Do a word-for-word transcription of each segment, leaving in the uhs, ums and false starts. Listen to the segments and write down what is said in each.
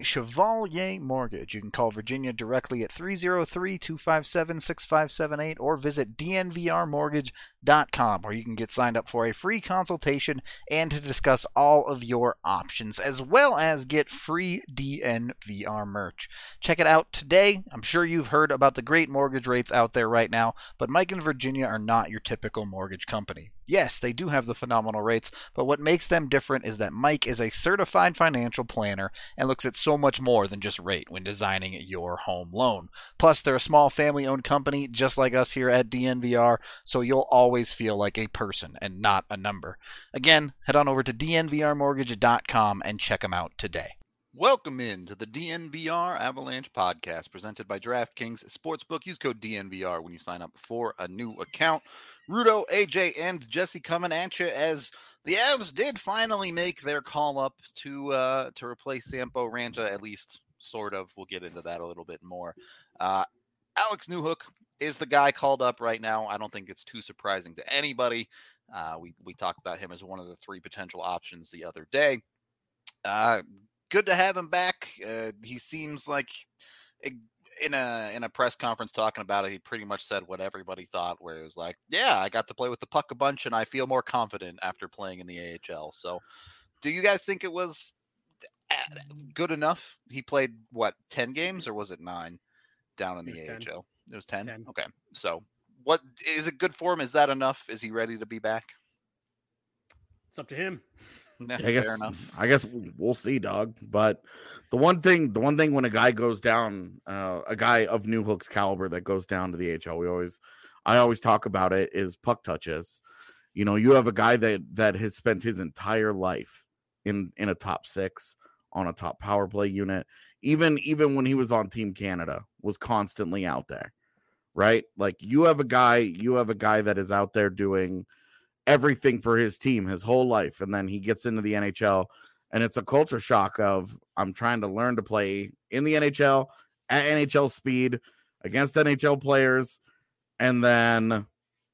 Chevalier Mortgage. You can call Virginia directly at three oh three, two five seven, six five seven eight or visit d n v r mortgage dot com, where you can get signed up for a free consultation and to discuss all of your options, as well as get free D N V R merch. Check it out today. I'm sure you've heard about the great mortgage rates out there right now, but Mike and Virginia are not your typical mortgage company. Yes, they do have the phenomenal rates, but what makes them different is that Mike is a certified financial planner and looks at so much more than just rate when designing your home loan. Plus, they're a small family-owned company just like us here at D N V R, so you'll always feel like a person and not a number. Again, head on over to d n v r mortgage dot com and check them out today. Welcome in to the D N V R Avalanche podcast presented by DraftKings Sportsbook. Use code D N V R when you sign up for a new account. Rudo, A J, and Jesse coming at you as the Avs did finally make their call up to uh, to replace Sampo Ranta, at least sort of. We'll get into that a little bit more. Uh, Alex Newhook is the guy called up right now. I don't think it's too surprising to anybody. Uh, we, we talked about him as one of the three potential options the other day. Uh, good to have him back. Uh, he seems like in a in a press conference talking about it, he pretty much said what everybody thought, where it was like, yeah, I got to play with the puck a bunch and I feel more confident after playing in the A H L. So do you guys think it was good enough? He played, what, ten games or was it nine down in the A H L? It was ten? ten. Okay. So what is it good for him? Is that enough? Is he ready to be back? It's up to him. Yeah, I guess, fair enough. I guess we'll see, dog. But the one thing, the one thing when a guy goes down, uh, a guy of Newhook's caliber that goes down to the A H L, we always, I always talk about it is puck touches. You know, you have a guy that that has spent his entire life in in a top six on a top power play unit. Even even when he was on Team Canada, was constantly out there, right? Like you have a guy, you have a guy that is out there doing everything for his team his whole life, and then he gets into the N H L and it's a culture shock of I'm trying to learn to play in the N H L at N H L speed against N H L players and then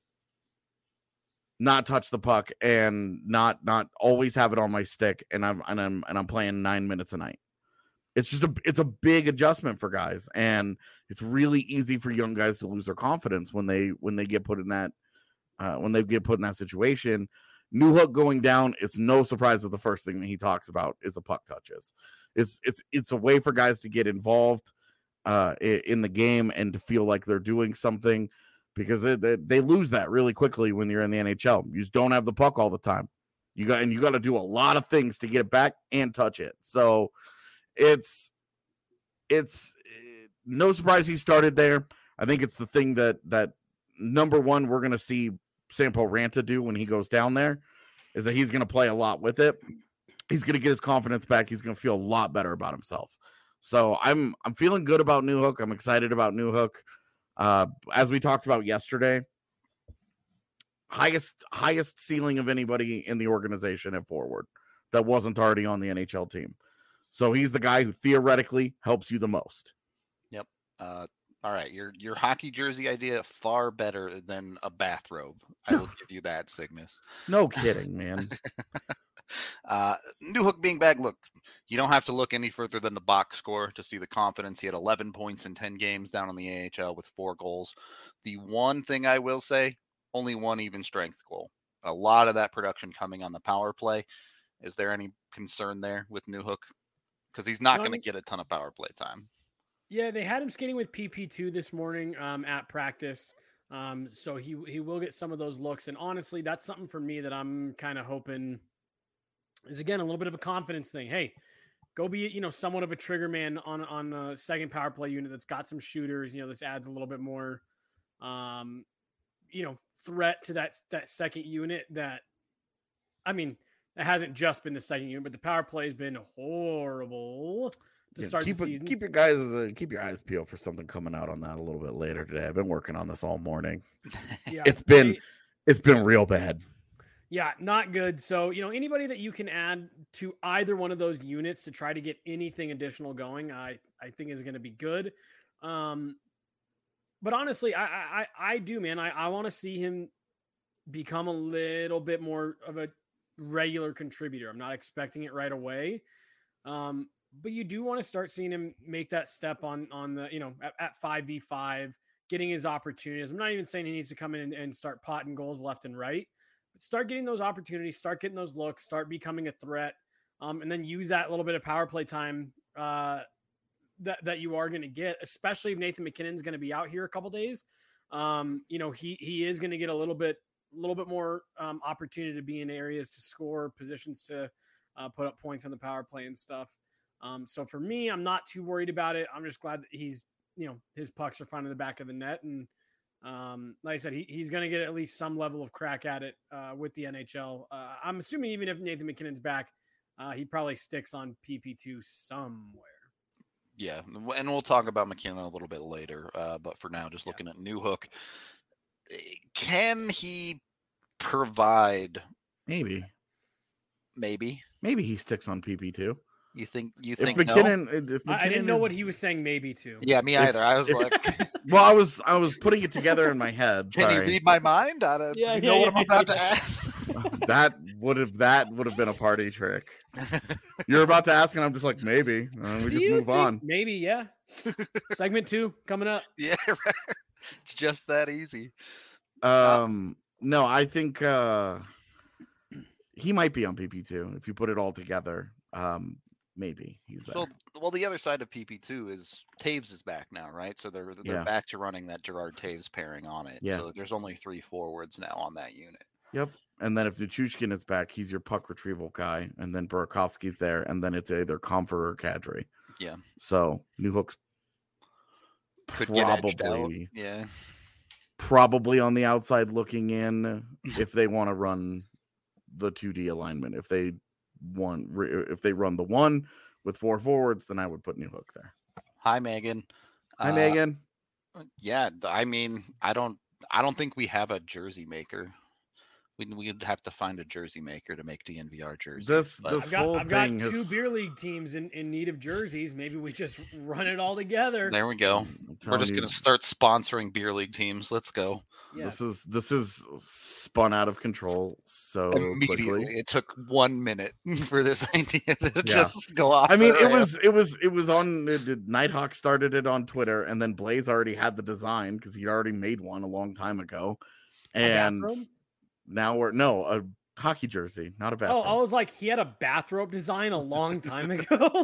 not touch the puck and not not always have it on my stick, and I'm and I'm and I'm playing nine minutes a night. It's just a it's a big adjustment for guys, and it's really easy for young guys to lose their confidence when they when they get put in that Uh, when they get put in that situation. Newhook going down, it's no surprise that the first thing that he talks about is the puck touches. It's it's it's a way for guys to get involved uh, in the game and to feel like they're doing something, because they, they, they lose that really quickly when you're in the N H L. You just don't have the puck all the time. You got and you got to do a lot of things to get it back and touch it. So it's it's no surprise he started there. I think it's the thing that that number one we're going to see Sampo Ranta do when he goes down there is that he's going to play a lot with it. He's going to get his confidence back. He's going to feel a lot better about himself. So I'm I'm feeling good about Newhook. I'm excited about Newhook. Uh, as we talked about yesterday, highest highest ceiling of anybody in the organization at forward that wasn't already on the N H L team. So he's the guy who theoretically helps you the most. Yep. Uh, all right, your your hockey jersey idea far better than a bathrobe. I will give you that, Cygnus. No kidding, man. uh, Newhook being back, look, you don't have to look any further than the box score to see the confidence. He had eleven points in ten games down in the A H L with four goals. The one thing I will say, only one even strength goal. A lot of that production coming on the power play. Is there any concern there with Newhook? Because he's not going to get a ton of power play time. Yeah, they had him skating with P P two this morning um, at practice. Um, so he he will get some of those looks. And honestly, that's something for me that I'm kind of hoping is, again, a little bit of a confidence thing. Hey, go be, you know, somewhat of a trigger man on, on a second power play unit that's got some shooters. You know, this adds a little bit more, um, you know, threat to that, that second unit that, I mean, it hasn't just been the second unit, but the power play has been horrible. To Yeah, start keep the it, season. keep your guys uh, keep your eyes peeled for something coming out on that a little bit later today. I've been working on this all morning. Yeah, it's been I, it's been real bad. Yeah, not good. So, you know, anybody that you can add to either one of those units to try to get anything additional going, I I think is going to be good. Um, but honestly, I I I do, man. I I want to see him become a little bit more of a regular contributor. I'm not expecting it right away. Um, but you do want to start seeing him make that step on on the, you know, at, at five v five, getting his opportunities. I'm not even saying he needs to come in and, and start potting goals left and right, but start getting those opportunities, start getting those looks, start becoming a threat, um, and then use that little bit of power play time uh, that that you are going to get, especially if Nathan MacKinnon's going to be out here a couple days. Um, you know, he he is going to get a little bit a little bit more um, opportunity to be in areas to score, positions to uh, put up points on the power play and stuff. Um, so for me, I'm not too worried about it. I'm just glad that he's, you know, his pucks are finding the back of the net. And um, like I said, he, he's going to get at least some level of crack at it uh, with the N H L. Uh, I'm assuming even if Nathan MacKinnon's back, uh, he probably sticks on P P two somewhere. Yeah, and we'll talk about MacKinnon a little bit later. Uh, but for now, just Yeah. looking at Newhook, can he provide? Maybe, Maybe. maybe he sticks on P P two. You think? You If think? No? MacKinnon, if MacKinnon I, I didn't know is, what he was saying maybe to. Yeah, me If- either. I was if- like, Well, I was I was putting it together in my head. can Sorry. you read my mind? I don't, Yeah, do you know yeah, what I'm yeah, about yeah. to ask? that would have that would have been a party trick. You're about to ask, and I'm just like, maybe. And we Do just you move think- on. Maybe, yeah. Segment two coming up. Yeah, right. It's just that easy. Um, no, I think uh, he might be on P P two if you put it all together. Um, maybe he's there. So, well, the other side of P P two is Taves is back now, right? So they're they're Yeah. back to running that Gerard Taves pairing on it. Yeah. So there's only three forwards now on that unit. Yep. And then if Nichushkin is back, he's your puck retrieval guy, and then Burakovsky's there, and then it's either Comfer or Kadri. Yeah. So Newhook's Could get edged out. probably Yeah. probably on the outside looking in if they want to run the two D alignment. If they want, if they run the one with four forwards, then I would put Newhook there. Hi, Megan. Hi, Uh, Megan. Yeah, th- I mean, I don't, I don't think we have a jersey maker. We we'd have to find a jersey maker to make D N V R jerseys. This but- this I've got whole I've got thing two has, beer league teams in, in need of jerseys. Maybe we just run it all together. there we go. I'm We're telling just you, gonna start sponsoring beer league teams. Let's go. Yeah. This is this is spun out of control so Immediately, quickly. it took one minute for this idea to Yeah. just go off. I mean, the it rails. was it was it was on it, it- Nighthawk started it on Twitter, and then Blaze already had the design because he'd already made one a long time ago, A and bathrobe? now we're no a hockey jersey, not a Oh, bathrobe. I was like, he had a bathrobe design a long time ago.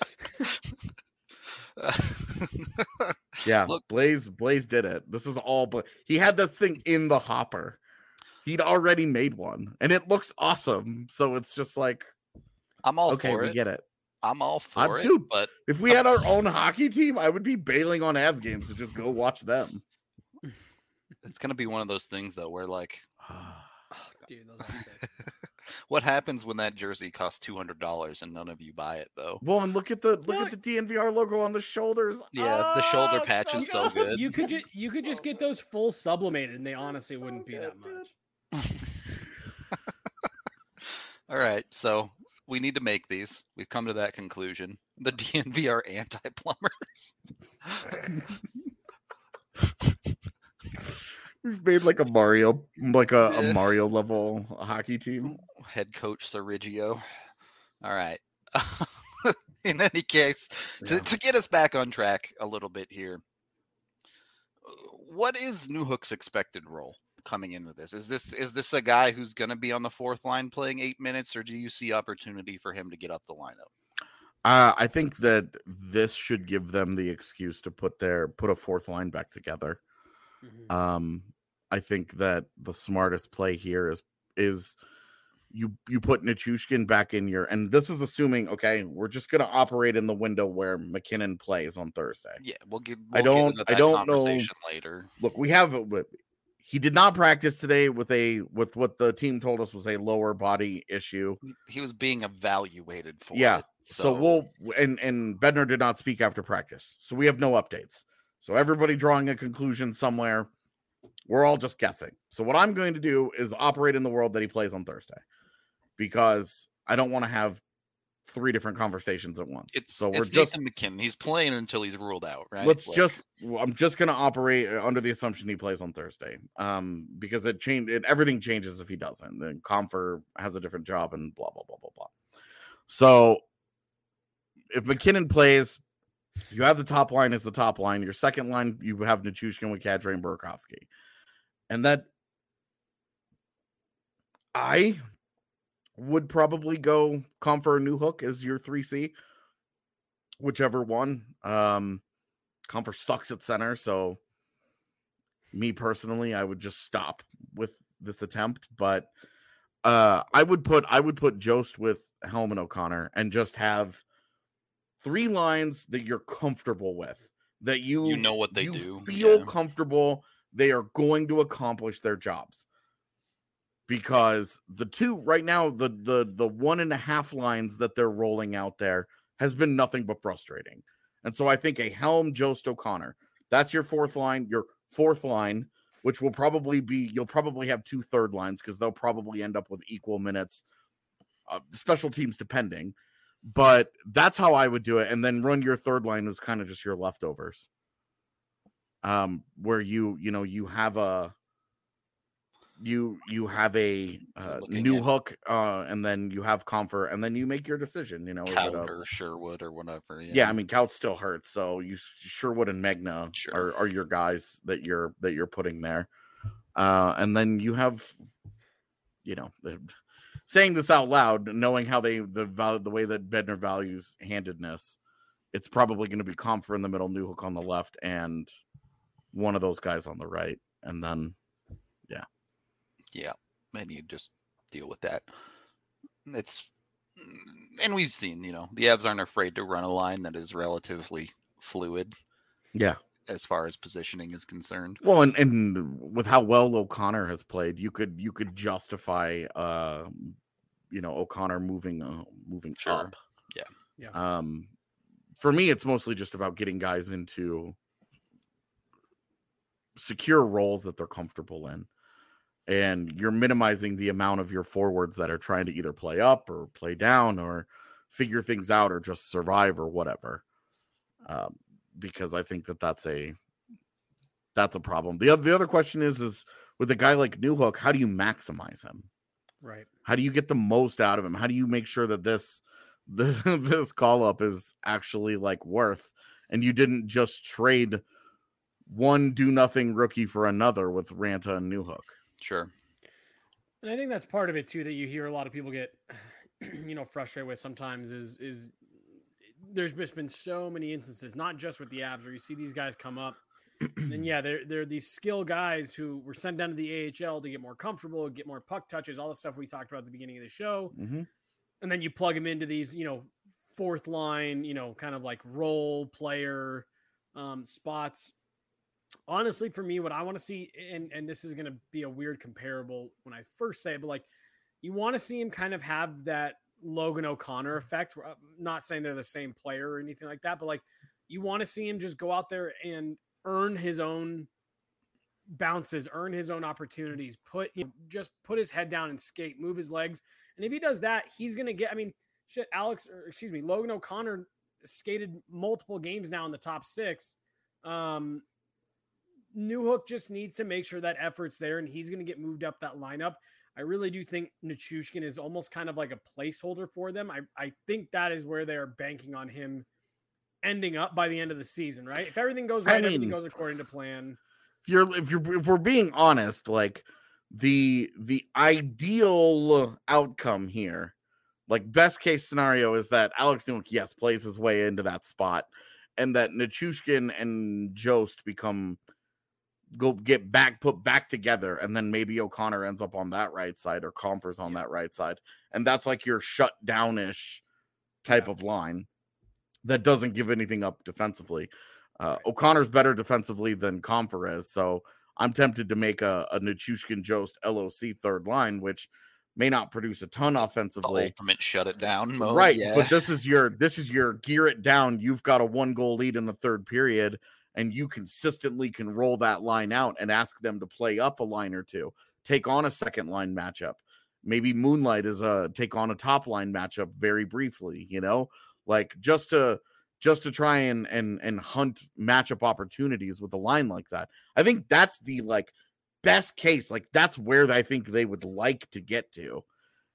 yeah, look- Blaze Blaze did it. This is all, but he had this thing in the hopper. He'd already made one, and it looks awesome. So it's just like, I'm all okay, for we it. get it. I'm all I'm- for it, dude, but If we had our own hockey team, I would be bailing on Avs games to just go watch them. it's gonna be one of those things though, where like, Oh, dude, those are sick. what happens when that jersey costs two hundred dollars and none of you buy it though? Well, and look at the look What? at the D N V R logo on the shoulders. Yeah, the shoulder Ah, patch is so good. You could just you could So just get good. those full sublimated, and they honestly so wouldn't be good, that dude. much. All right, so we need to make these. We've come to that conclusion. The D N V are anti-plumbers. We've made like a Mario, like a, Yeah. a Mario level hockey team. Head coach Sergio. All right. In any case, to, Yeah. to get us back on track a little bit here, what is Newhook's expected role coming into this? Is this is this a guy who's going to be on the fourth line playing eight minutes, or do you see opportunity for him to get up the lineup? Uh, I think that this should give them the excuse to put their put a fourth line back together. Mhm. Um, I think that the smartest play here is is you you put Nichushkin back in your, and this is assuming, okay, we're just gonna operate in the window where MacKinnon plays on Thursday. Yeah, we'll get. I We'll don't- Get into I that don't know- conversation later. Look, we have he did not practice today with a with what the team told us was a lower body issue. He was being evaluated for Yeah, it. So, we'll and and Bednar did not speak after practice, so we have no updates. So everybody drawing a conclusion somewhere. We're all just guessing. So what I'm going to do is operate in the world that he plays on Thursday, because I don't want to have three different conversations at once. It's so we're it's just Nathan McKinnon. He's playing until he's ruled out, right? let's Like, just I'm just going to operate under the assumption he plays on Thursday, um, because it changed. It, everything changes if he doesn't. Then Comfer has a different job and blah blah blah blah blah. So if McKinnon plays, you have the top line as the top line. Your second line, you have Nichushkin with Kadri and Burakovsky. And that I would probably go Comfer or Newhook as your three C, whichever one. Um, Comfer sucks at center, so me personally, I would just stop with this attempt. But uh, I would put I would put Jost with Helm and O'Connor and just have three lines that you're comfortable with, that you You know what they you do. feel Yeah. comfortable. They are going to accomplish their jobs. Because the two right now, the the the one and a half lines that they're rolling out there has been nothing but frustrating. And so I think a Helm, Jost, O'Connor, that's your fourth line, your fourth line, which will probably be, you'll probably have two third lines because they'll probably end up with equal minutes, uh, special teams depending. But that's how I would do it. And then run your third line as kind of just your leftovers. Um, where you, you know, you have a, you you have a uh, new at- hook, uh, and then you have Comfer, and then you make your decision. You know, is it Kaut a- or Sherwood or whatever. Yeah, yeah, I mean, Kaut still hurts, so you Sherwood and Megna Sure. are, are your guys that you're that you're putting there, uh, and then you have, you know, the, saying this out loud, knowing how they the val- the way that Bednar values handedness, it's probably going to be Comfer in the middle, new hook on the left, and one of those guys on the right, and then yeah, maybe you just deal with that. It's and we've seen, you know, the Avs aren't afraid to run a line that is relatively fluid yeah. as far as positioning is concerned. Well, and, and with how well O'Connor has played, you could you could justify, uh, you know, O'Connor moving uh, moving Sure. up. Yeah. Yeah. Um, for me, it's mostly just about getting guys into secure roles that they're comfortable in, and you're minimizing the amount of your forwards that are trying to either play up or play down or figure things out or just survive or whatever. Um, because I think that that's a that's a problem. The other the other question is is with a guy like Newhook, how do you maximize him? Right. How do you get the most out of him? How do you make sure that this this, this call up is actually like worth, and you didn't just trade one do nothing rookie for another with Ranta and Newhook? Sure. And I think that's part of it too, that you hear a lot of people get, you know, frustrated with sometimes is, is there's just been so many instances, not just with the Avs, where you see these guys come up and yeah, they're, they're these skill guys who were sent down to the A H L to get more comfortable, get more puck touches, all the stuff we talked about at the beginning of the show. Mm-hmm. And then you plug them into these, you know, fourth line, you know, kind of like role player um, spots. Honestly, for me, what I want to see, and, and this is going to be a weird comparable when I first say it, but like you want to see him kind of have that Logan O'Connor effect. I'm not saying they're the same player or anything like that, but like you want to see him just go out there and earn his own bounces, earn his own opportunities, put, you know, just put his head down and skate, move his legs. And if he does that, he's going to get, I mean, shit, Alex, or excuse me, Logan O'Connor skated multiple games now in the top six. Um, Newhook just needs to make sure that effort's there, and he's going to get moved up that lineup. I really do think Nichushkin is almost kind of like a placeholder for them. I, I think that is where they're banking on him ending up by the end of the season, right? If everything goes right, I mean, everything goes according to plan. If you're if you're if we're being honest, like the the ideal outcome here, like best case scenario, is that Alex Newhook, yes, plays his way into that spot, and that Nichushkin and Jost become go get back put back together, and then maybe O'Connor ends up on that right side or Comfer's on that right side, and that's like your shut down-ish type Yeah. of line that doesn't give anything up defensively. Uh, O'Connor's better defensively than Comfer is, so I'm tempted to make a, a Nichushkin Jost L O C third line, which may not produce a ton The offensively. ultimate shut it down mode. Right, Yeah. but this is your this is your gear it down. You've got a one goal lead in the third period, and you consistently can roll that line out and ask them to play up a line or two, take on a second line matchup. Maybe Moonlight is a take on a top line matchup very briefly, you know, like just to just to try and and and hunt matchup opportunities with a line like that. I think that's the like best case. Like that's where I think they would like to get to.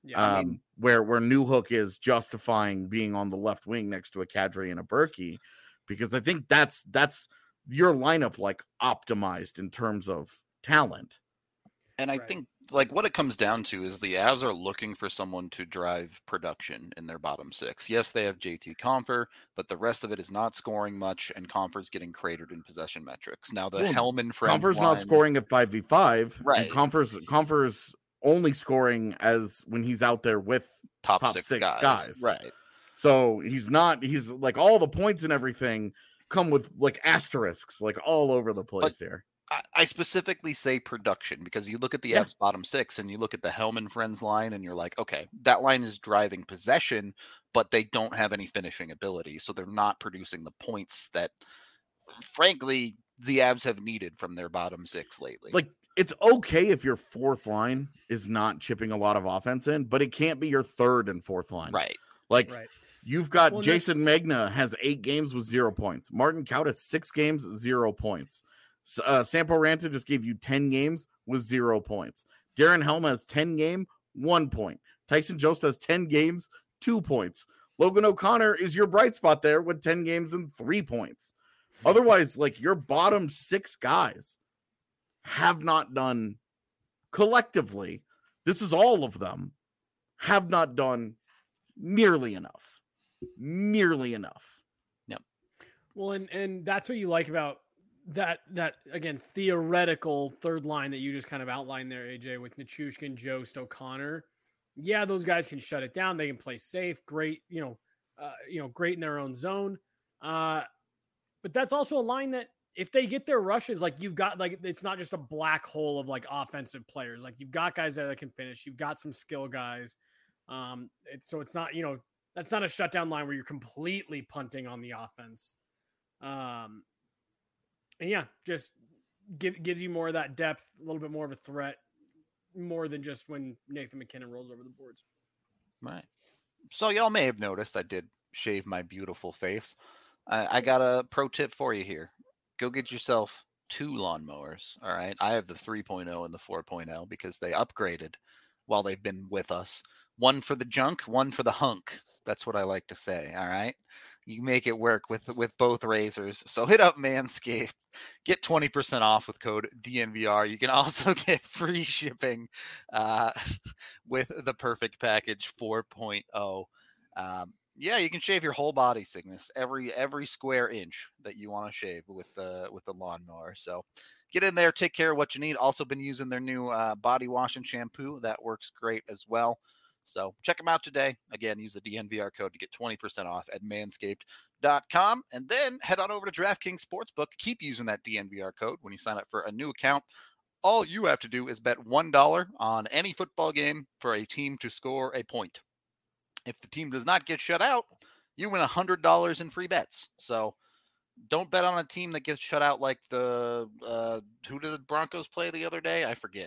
Yeah. Um, I mean- where where Newhook is justifying being on the left wing next to a Kadri and a Berkey, because I think that's that's your lineup like optimized in terms of talent. And I Right. think like what it comes down to is the Avs are looking for someone to drive production in their bottom six. Yes, they have J T Compher, but the rest of it is not scoring much, and Compher's getting cratered in possession metrics. Now the Well, Hellman Friends Compher's line, not scoring at five v five, Right. and Compher's Compher's only scoring as when he's out there with top, top six, six guys. guys. Right. So he's not, he's like all the points and everything come with like asterisks, like all over the place But- here. I, I specifically say production because you look at the Yeah. Avs bottom six and you look at the Hellman Friends line and you're like, okay, that line is driving possession, but they don't have any finishing ability. So they're not producing the points that, frankly, the Avs have needed from their bottom six lately. Like, it's okay if your fourth line is not chipping a lot of offense in, but it can't be your third and fourth line. right. Like, Right. you've got Well, and Jason Magna has eight games with zero points. Martin Kaut has six games, zero points. S- Uh, Sampo Ranta just gave you ten games with zero points. Darren Helm has ten game, one point. Tyson Jost has ten games, two points. Logan O'Connor is your bright spot there with ten games and three points. Otherwise, like your bottom six guys have not done collectively, this is all of them, have not done nearly enough. Nearly enough. Well, and and that's what you like about that that again theoretical third line that you just kind of outlined there, A J, with Nichushkin, Jost, O'Connor. Yeah, those guys can shut it down. They can play safe. Great, you know, uh, you know, great in their own zone. Uh, but that's also a line that if they get their rushes, like you've got, like it's not just a black hole of like offensive players. Like you've got guys there that can finish. You've got some skill guys. Um, it's so it's not, you know, that's not a shutdown line where you're completely punting on the offense. Um, and yeah, just give, gives you more of that depth, a little bit more of a threat, more than just when Nathan McKinnon rolls over the boards. Right. So y'all may have noticed I did shave my beautiful face. I, I got a pro tip for you here. Go get yourself two lawnmowers. All right. I have the three point oh and the four point oh because they upgraded while they've been with us. One for the junk, one for the hunk. That's what I like to say. All right. You make it work with with both razors. So hit up Manscaped. Get twenty percent off with code D N V R. You can also get free shipping uh, with the Perfect Package four point oh. Um, yeah, you can shave your whole body, Cygnus, every every square inch that you want to shave with the with the lawnmower. So get in there, take care of what you need. Also been using their new uh, body wash and shampoo. That works great as well. So check them out today. Again, use the D N V R code to get twenty percent off at manscaped dot com. And then head on over to DraftKings Sportsbook. Keep using that D N V R code when you sign up for a new account. All you have to do is bet one dollar on any football game for a team to score a point. If the team does not get shut out, you win one hundred dollars in free bets. So don't bet on a team that gets shut out like the uh, – who did the Broncos play the other day? I forget.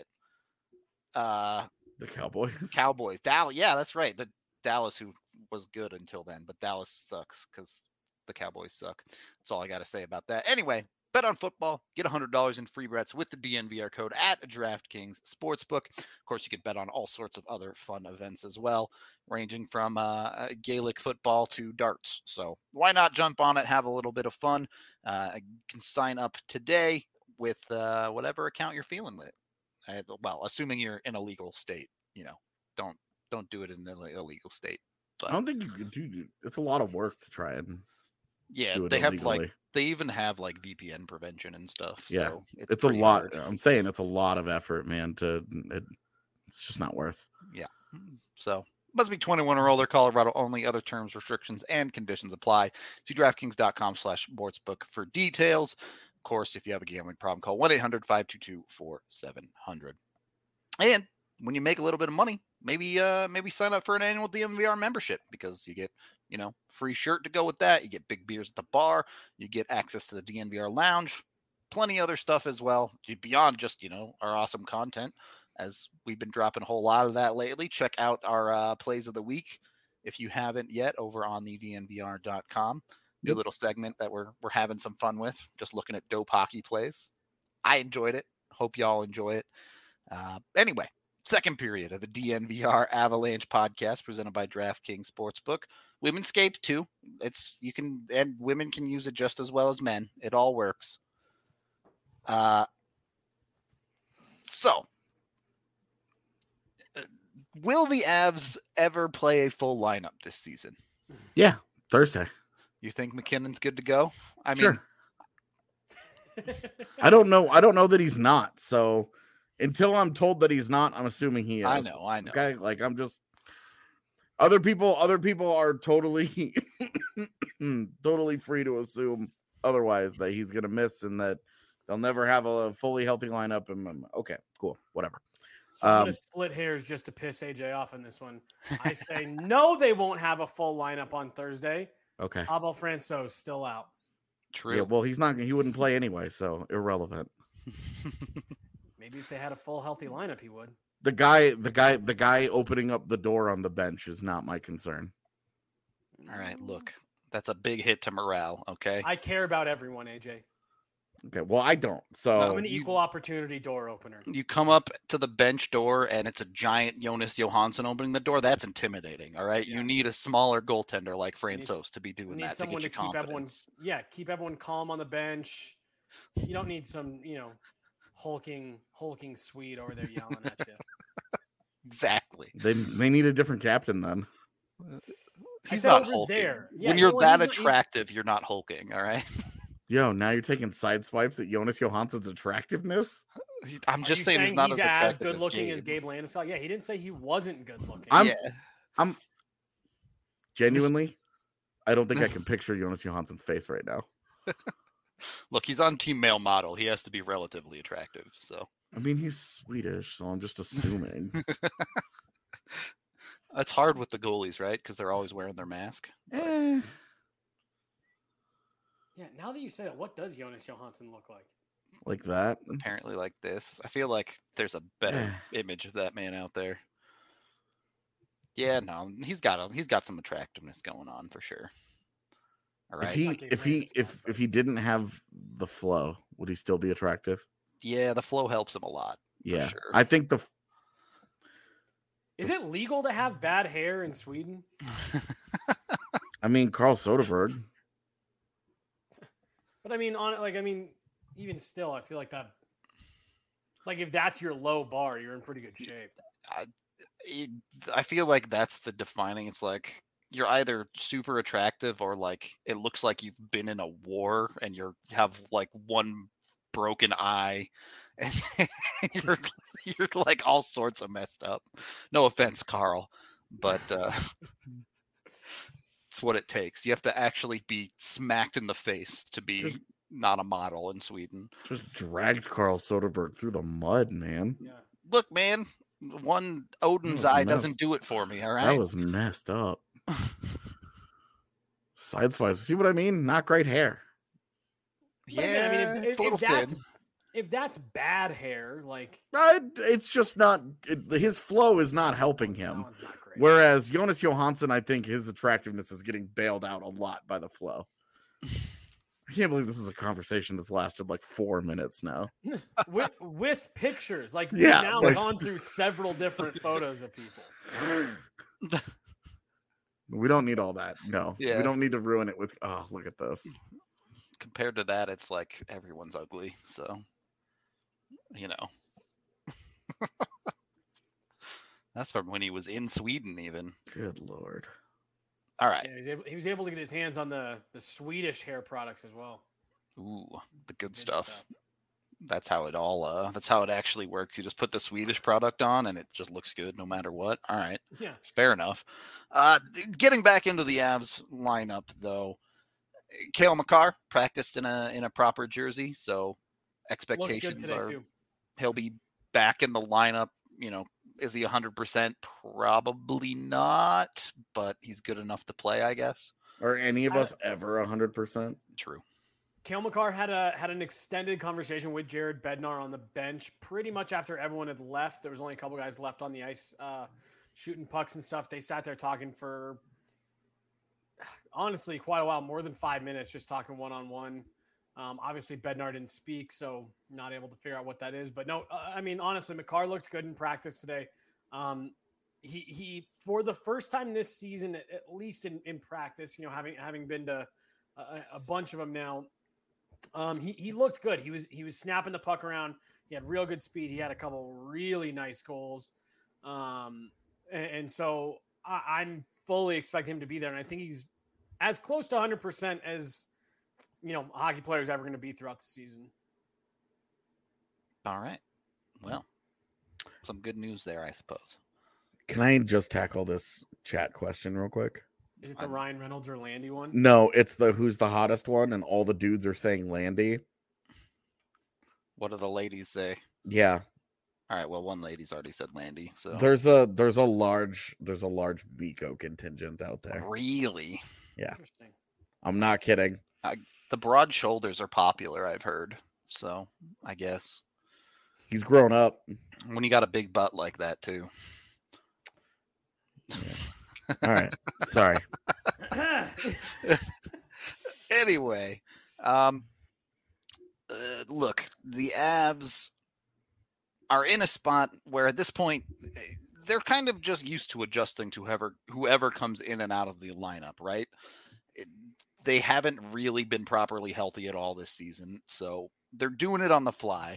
Uh, The Cowboys. Cowboys. Dallas. Yeah, that's right. The Dallas, who was good until then, but Dallas sucks because the Cowboys suck. That's all I got to say about that. Anyway, bet on football. Get one hundred dollars in free bets with the D N V R code at DraftKings Sportsbook. Of course, you can bet on all sorts of other fun events as well, ranging from uh, Gaelic football to darts. So why not jump on it, have a little bit of fun? Uh, you can sign up today with uh, whatever account you're feeling with. I, well, assuming you're in a legal state, you know, don't don't do it in an illegal state. But I don't think you could do. It's a lot of work to try and yeah, do it they have illegally. like they even have like V P N prevention and stuff. Yeah, So it's, It's a pretty lot. hard. I'm saying it's a lot of effort, man. To it, it's just not worth. So must be twenty-one or older. Colorado only. Other terms, restrictions, and conditions apply. See DraftKings dot com slash sportsbook for details. Of course, if you have a gambling problem, call one eight hundred five two two four seven zero zero. And when you make a little bit of money, maybe uh maybe sign up for an annual D N V R membership because you get, you know, free shirt to go with that. You get big beers at the bar. You get access to the D N V R lounge. Plenty other stuff as well beyond just, you know, our awesome content. As we've been dropping a whole lot of that lately. Check out our uh, plays of the week if you haven't yet over on the D N V R dot com. New Yep. little segment that we're we're having some fun with, just looking at dope hockey plays. I enjoyed it. Hope y'all enjoy it. Uh, anyway, Second period of the D N V R Avalanche podcast presented by DraftKings Sportsbook. Women skate too. It's you can and women can use it just as well as men. It all works. Uh, so uh, will the Avs ever play a full lineup this season? Yeah, Thursday. You think McKinnon's good to go? I Sure. mean, I don't know. I don't know that he's not. So until I'm told that he's not, I'm assuming he is. I know, I know. Okay, like I'm just other people. Other people are totally, totally free to assume otherwise that he's gonna miss and that they'll never have a fully healthy lineup. And okay, cool, whatever. So I'm Um, gonna split hairs just to piss A J off on this one. I say no, they won't have a full lineup on Thursday. Okay. Abel Franco's still out. True. Yeah. Well, he's not. He wouldn't play anyway, so irrelevant. Maybe if they had a full healthy lineup, he would. The guy, the guy, the guy opening up the door on the bench is not my concern. All right, look, that's a big hit to morale. Okay. I care about everyone, A J. Okay. Well, I don't. So I'm an you- equal opportunity door opener. You come up to the bench door and it's a giant Jonas Johansson opening the door. That's intimidating. All right. Yeah. You need a smaller goaltender like Needs- Francouz to be doing Need that to someone get to you keep everyone, confidence. yeah, keep everyone calm on the bench. You don't need some, you know, hulking, hulking Swede over there yelling at you. Exactly. they they need a different captain then. He's said not over hulking. there. Yeah, when you know you're what, that he's not- he- attractive, you're not hulking. All right. Yo, now you're taking side swipes at Jonas Johansson's attractiveness. He- I'm Are just you saying, he's not he's as as attractive good looking as as Gabe Landeskog. Yeah, he didn't say he wasn't good looking. I'm- yeah. Genuinely, I don't think I can picture Jonas Johansson's face right now. Look, he's on Team Male Model. He has to be relatively attractive. So I mean, he's Swedish, so I'm just assuming. that's hard with the goalies, right? Because they're always wearing their mask. Eh, Yeah, now that you say that, what does Jonas Johansson look like? like that. Apparently, like this. I feel like there's a better Eh. image of that man out there. Yeah, no, he's got a, he's got some attractiveness going on for sure. All If right. he Like a if he Landeskog, if but- if he didn't have the flow, would he still be attractive? Yeah, the flow helps him a lot. Yeah, sure. I think the Is it legal to have bad hair in Sweden? I mean Carl Soderberg. But I mean, on like I mean, even still, I feel like that. Like if that's your low bar, you're in pretty good shape. it- I feel like that's the defining. It's like you're either super attractive or like it looks like you've been in a war and you're have like one broken eye and you're you're like all sorts of messed up. No offense, Carl, but uh it's what it takes. You have to actually be smacked in the face to be Just- not a model in Sweden. Just dragged Carl Soderberg through the mud, man. Yeah. Look, man, one Odin's was eye messed- doesn't do it for me, all right? That was messed up. Side swipes. See what I mean? Not great hair. But I mean, I mean, if- it's a if little that's- thin. If that's bad hair, like I, it's just not. It, his flow is not helping that him. one's not great. Whereas Jonas Johansson, I think his attractiveness is getting bailed out a lot by the flow. I can't believe this is a conversation that's lasted like four minutes now. with with pictures, like we've Yeah, now like- gone through several different photos of people. We don't need all that. No, Yeah. we don't need to ruin it with. Oh, look at this. Compared to that, it's like everyone's ugly. So, you know, that's from when he was in Sweden, even. Good lord. All right. Yeah, he was able he was able to get his hands on the the Swedish hair products as well. Ooh, the good, Good stuff. stuff. That's how it all. Uh, that's how it actually works. You just put the Swedish product on, and it just looks good no matter what. All right. Yeah. Fair enough. Uh, getting back into the Avs lineup, though, Cale Makar practiced in a in a proper jersey, so Looked good expectations today are too. he'll be back in the lineup. You know, is he one hundred percent? Probably not, but he's good enough to play, I guess. Are any of I- us ever one hundred percent? True. Cale Makar had a had an extended conversation with Jared Bednar on the bench pretty much after everyone had left. There was only a couple guys left on the ice uh, shooting pucks and stuff. They sat there talking for honestly quite a while, more than five minutes, just talking one on one. Um, obviously, Bednar didn't speak, so not able to figure out what that is. But no, uh, I mean, honestly, Makar looked good in practice today. Um, he he for the first time this season, at least in, in practice, you know, having having been to a, a bunch of them now, um, he he looked good. He was he was snapping the puck around. He had real good speed. He had a couple really nice goals, um, and, and so I, I'm fully expecting him to be there. And I think he's as close to one hundred percent as you know a hockey player is ever going to be throughout the season. All right. Well, some good news there, I suppose. Can I just tackle this chat question real quick? Is it the I'm- Ryan Reynolds or Landy one? No, it's the who's the hottest one, and all the dudes are saying Landy. What do the ladies say? Yeah, All right. Well, one lady's already said Landy. So there's a there's a large there's a large Miko contingent out there. really, Interesting. I'm not kidding. the broad shoulders are popular. I've heard. So I guess He's grown up. when you got a big butt like that too. All right, sorry. Anyway, um, uh, look, the Avs are in a spot where at this point eh, they're kind of just used to adjusting to whoever whoever comes in and out of the lineup, right? It, they haven't really been properly healthy at all this season, so they're doing it on the fly.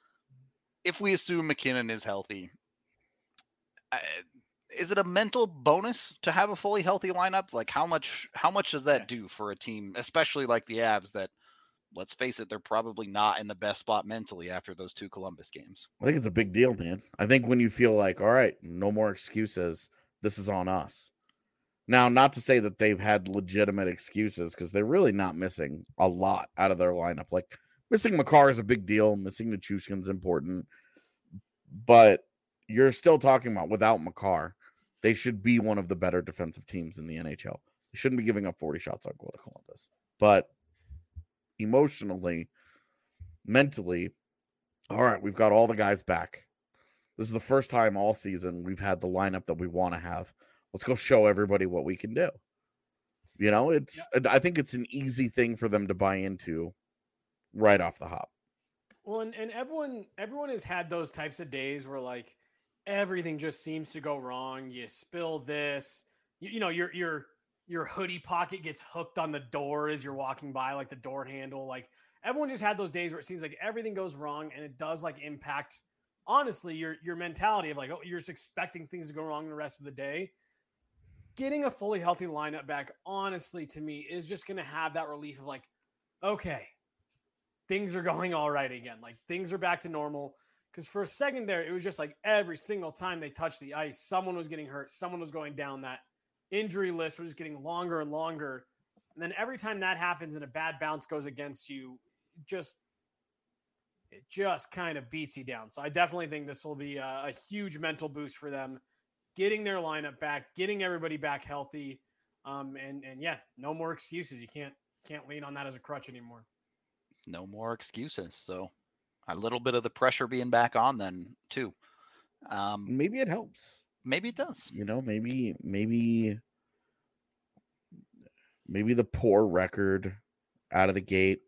If we assume McKinnon is healthy, I, is it a mental bonus to have a fully healthy lineup? Like how much how much does that do for a team, especially like the Avs that, let's face it, they're probably not in the best spot mentally after those two Columbus games. I think it's a big deal, man. I think when you feel like, all right, no more excuses, this is on us. Now, not to say that they've had legitimate excuses, because they're really not missing a lot out of their lineup. Like, missing Makar is a big deal. Missing Nichushkin's important. But you're still talking about, without Makar, they should be one of the better defensive teams in the N H L. They shouldn't be giving up forty shots on goal to Columbus. But emotionally, mentally, all right, we've got all the guys back. This is the first time all season we've had the lineup that we want to have. Let's go show everybody what we can do. You know, it's yeah. I think it's an easy thing for them to buy into right off the hop. Well, and, and everyone everyone has had those types of days where like everything just seems to go wrong. You spill this, you, you know, your your your hoodie pocket gets hooked on the door as you're walking by, like the door handle. Like everyone just had those days where it seems like everything goes wrong, and it does like impact honestly your your mentality of like, oh, you're just expecting things to go wrong the rest of the day. Getting a fully healthy lineup back, honestly, to me, is just going to have that relief of like, okay, things are going all right again. Like things are back to normal. Because for a second there, it was just like every single time they touched the ice, someone was getting hurt. Someone was going down. That injury list was just getting longer and longer. And then every time that happens and a bad bounce goes against you, just it just kind of beats you down. So I definitely think this will be a, a huge mental boost for them. Getting their lineup back, getting everybody back healthy, um, and and yeah, no more excuses. You can't can't lean on that as a crutch anymore. No more excuses. So a little bit of the pressure being back on then too. Um, maybe it helps. Maybe it does. You know, maybe maybe maybe the poor record out of the gate.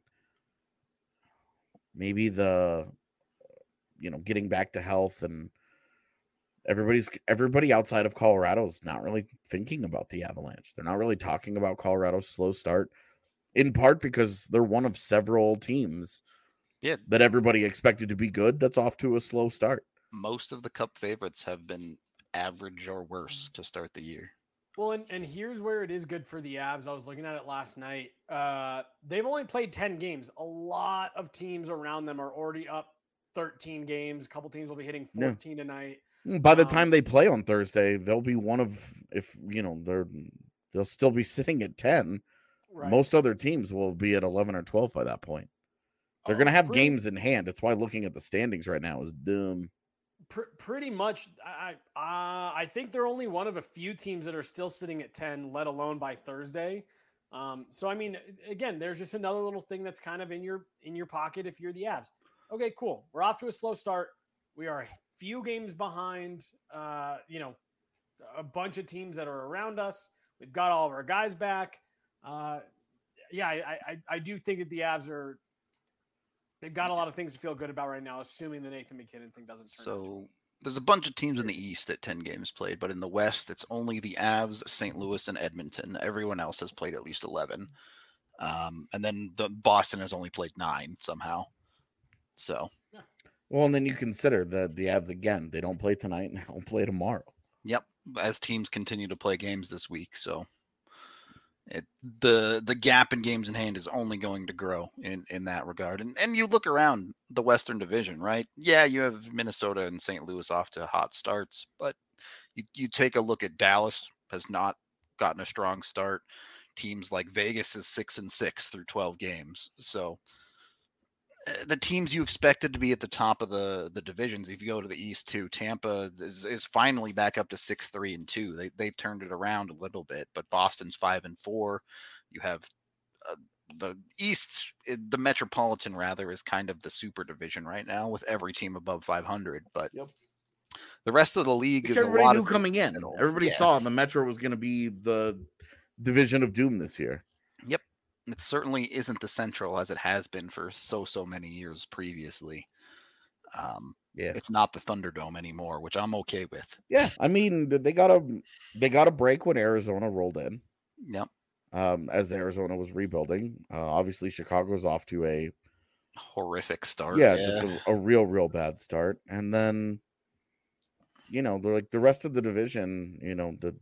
Maybe the you know getting back to health and. Everybody's everybody outside of Colorado is not really thinking about the Avalanche. They're not really talking about Colorado's slow start, in part because they're one of several teams yeah. that everybody expected to be good that's off to a slow start. Most of the Cup favorites have been average or worse to start the year. Well, and, and here's where it is good for the Avs. I was looking at it last night. Uh, they've only played ten games. A lot of teams around them are already up thirteen games. A couple teams will be hitting fourteen yeah. tonight. By the time um, they play on Thursday, they'll be one of, if you know, they're they'll still be sitting at ten. Right. Most other teams will be at eleven or twelve by that point. They're oh, going to have pretty, games in hand. That's why looking at the standings right now is dumb. Pr- pretty much, I uh, I think they're only one of a few teams that are still sitting at ten, let alone by Thursday. Um, so I mean, again, there's just another little thing that's kind of in your in your pocket if you're the Avs. Okay, cool. We're off to a slow start. We are a few games behind, uh, you know, a bunch of teams that are around us. We've got all of our guys back. Uh, yeah, I, I, I do think that the Avs are they've got a lot of things to feel good about right now, assuming the Nathan McKinnon thing doesn't turn out. So there's a bunch of teams in the East at ten games played, but in the West, it's only the Avs, Saint Louis, and Edmonton. Everyone else has played at least eleven. Um, and then the Boston has only played nine somehow. So, well, and then you consider the the Avs again. They don't play tonight, and they don't play tomorrow. Yep, as teams continue to play games this week, so it the the gap in games in hand is only going to grow in in that regard. And and you look around the Western Division, right? Yeah, you have Minnesota and Saint Louis off to hot starts, but you you take a look at Dallas has not gotten a strong start. Teams like Vegas is six and six through twelve games. So uh, the teams you expected to be at the top of the, the divisions, if you go to the East too, Tampa is, is finally back up to six, three and two. They, they've turned it around a little bit, but Boston's five and four. You have uh, the East, the Metropolitan rather is kind of the super division right now with every team above five hundred, but yep. The rest of the league Which is everybody a lot knew of coming in. middle. Everybody Yeah. saw the Metro was going to be the division of doom this year. Yep. It certainly isn't the Central as it has been for so, so many years previously. Um, yeah. It's not the Thunderdome anymore, which I'm okay with. Yeah. I mean, they got a, they got a break when Arizona rolled in. Yep. Um, as Arizona was rebuilding. Uh, obviously, Chicago's off to a horrific start. Yeah, yeah. just a, a real, real bad start. And then, you know, they're like the rest of the division, you know, the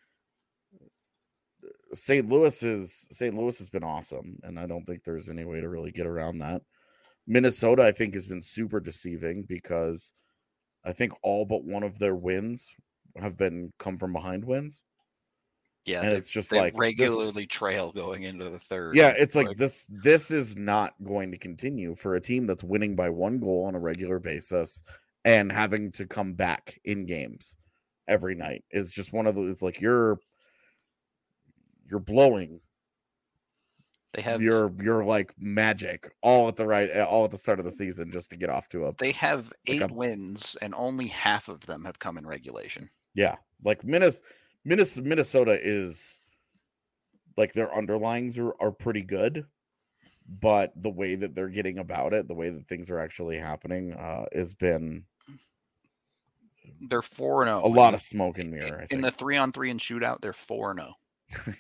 Saint Louis is Saint Louis has been awesome, and I don't think there's any way to really get around that. Minnesota, I think, has been super deceiving because I think all but one of their wins have been come from behind wins. Yeah, and they, it's just they like regularly this, trail going into the third. Yeah, it's like, like this. This is not going to continue for a team that's winning by one goal on a regular basis and having to come back in games every night. It's just one of those. It's like you're. You're blowing. They have your your like magic all at the right all at the start of the season just to get off to a. They have like eight a, wins and only half of them have come in regulation. Yeah, like Minnesota, Minnesota is like their underlyings are are pretty good, but the way that they're getting about it, the way that things are actually happening, uh, has been. They're four and zero. A lot of smoke and mirror. I think. In the three on three and shootout, they're four and zero. yeah.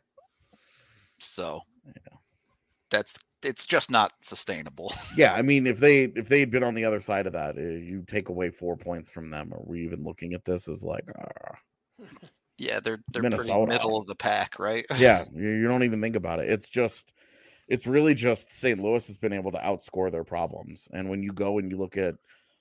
So yeah. that's it's just not sustainable. Yeah, I mean, if they if they had been on the other side of that, uh, you take away four points from them. Are we even looking at this as like? Uh, yeah, they're they're Minnesota. pretty middle of the pack, right? Yeah, you, you don't even think about it. It's just, it's really just Saint Louis has been able to outscore their problems, and when you go and you look at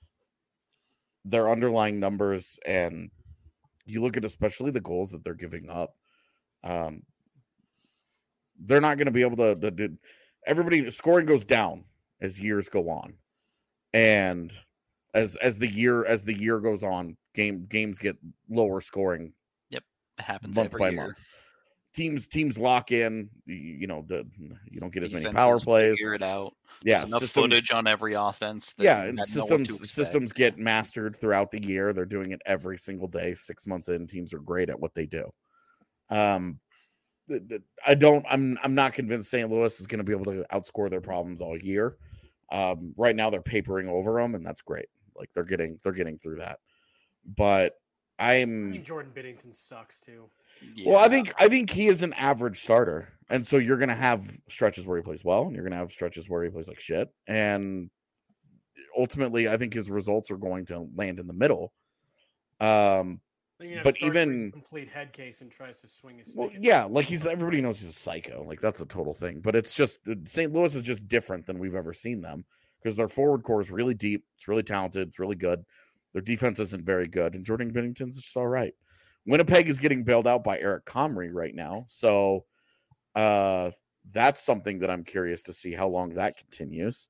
their underlying numbers and you look at especially the goals that they're giving up. Um, they're not going to be able to, to, to. Everybody scoring goes down as years go on, and as as the year as the year goes on, game games get lower scoring. Yep, it happens month every by year. month. Teams teams lock in. You, you know, the you don't get as many Defenses power plays. Figure it out. Yeah, There's enough systems, footage on every offense. That yeah, you and had no one to systems expect. systems get mastered throughout the year. They're doing it every single day. Six months in, teams are great at what they do. Um, I don't. I'm. I'm not convinced Saint Louis is going to be able to outscore their problems all year. Um, right now, they're papering over them, and that's great. Like they're getting. They're getting through that. But I'm. I think Jordan Binnington sucks too. Yeah. Well, I think. I think he is an average starter, and so you're going to have stretches where he plays well, and you're going to have stretches where he plays like shit, and ultimately, I think his results are going to land in the middle. Um. But even complete head case and tries to swing his well, stick. yeah, like he's everybody knows he's a psycho. Like that's a total thing. But it's just Saint Louis is just different than we've ever seen them because their forward core is really deep. It's really talented. It's really good. Their defense isn't very good, and Jordan Binnington's just all right. Winnipeg is getting bailed out by Eric Comrie right now, so uh, that's something that I'm curious to see how long that continues.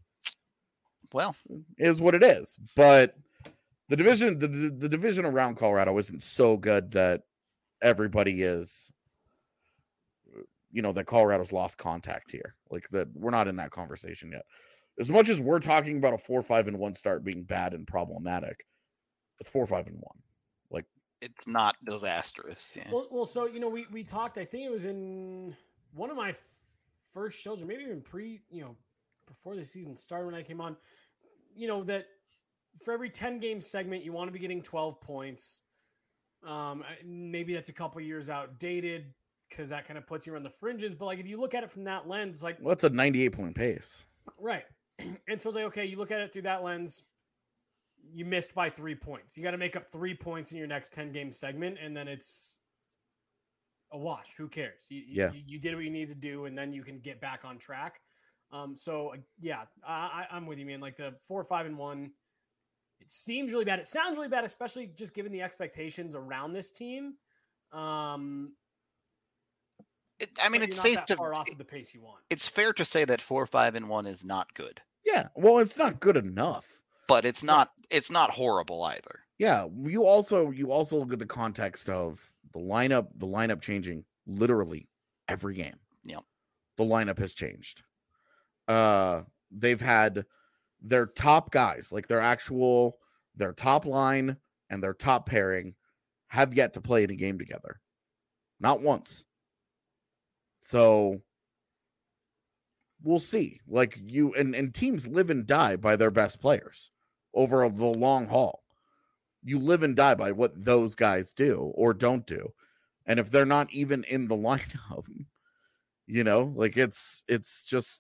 Well, is what it is, but. The division, the, the division around Colorado isn't so good that everybody is, you know, that Colorado's lost contact here. Like that, we're not in that conversation yet. As much as we're talking about a four, five, and one start being bad and problematic, it's four, five, and one. Like it's not disastrous. Yeah. Well, well, so you know, we we talked. I think it was in one of my f- first shows, or maybe even pre, you know, before the season started when I came on, you know, that for every ten game segment, you want to be getting twelve points. Um, maybe that's a couple years outdated because that kind of puts you on the fringes. But like, if you look at it from that lens, like, What's a ninety-eight point pace? Right. And so it's like, okay, you look at it through that lens, you missed by three points. You got to make up three points in your next ten game segment. And then it's a wash. Who cares? You, Yeah. you, you did what you need to do, and then you can get back on track. Um, so yeah, I, I, I'm with you, man. Like the four, five, and one, it seems really bad. It sounds really bad, especially just given the expectations around this team. Um, It, I mean, but it's you're not safe that to. far off of the pace you want. It's fair to say that four, five, and one is not good, Yeah. Well, it's not good enough. but it's not. It's not horrible either. Yeah. You also you also look at the context of the lineup, the lineup changing literally every game. Yep. The lineup has changed. Uh, they've had their top guys, like their actual their top line and their top pairing, have yet to play in a game together. Not once. So we'll see. Like you and, and teams live and die by their best players over the long haul. You live and die by what those guys do or don't do. And if they're not even in the lineup, you know, like it's it's just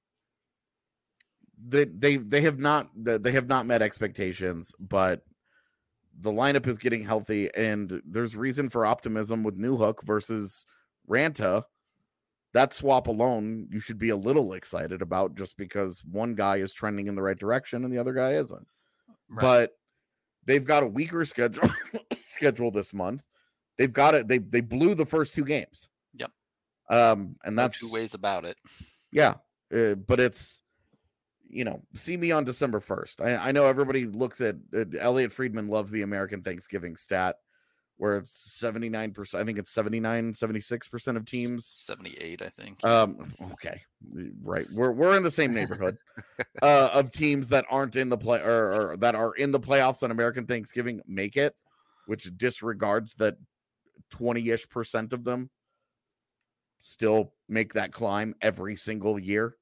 they they they have not they have not met expectations, but the lineup is getting healthy and there's reason for optimism with Newhook versus Ranta. That swap alone, you should be a little excited about just because one guy is trending in the right direction and the other guy isn't. Right. But they've got a weaker schedule schedule this month. They've got it. They they blew the first two games. Yep. Um, and No that's two ways about it. yeah. Uh, but it's, you know, see me on December first. I, I know everybody looks at uh, Elliot Friedman loves the American Thanksgiving stat where it's seventy-nine percent. I think it's seventy-nine, seventy-six percent of teams. seventy-eight, I think. Um, okay. Right. We're, we're in the same neighborhood uh, of teams that aren't in the play or, or that are in the playoffs on American Thanksgiving make it, which disregards that twenty-ish percent of them still make that climb every single year.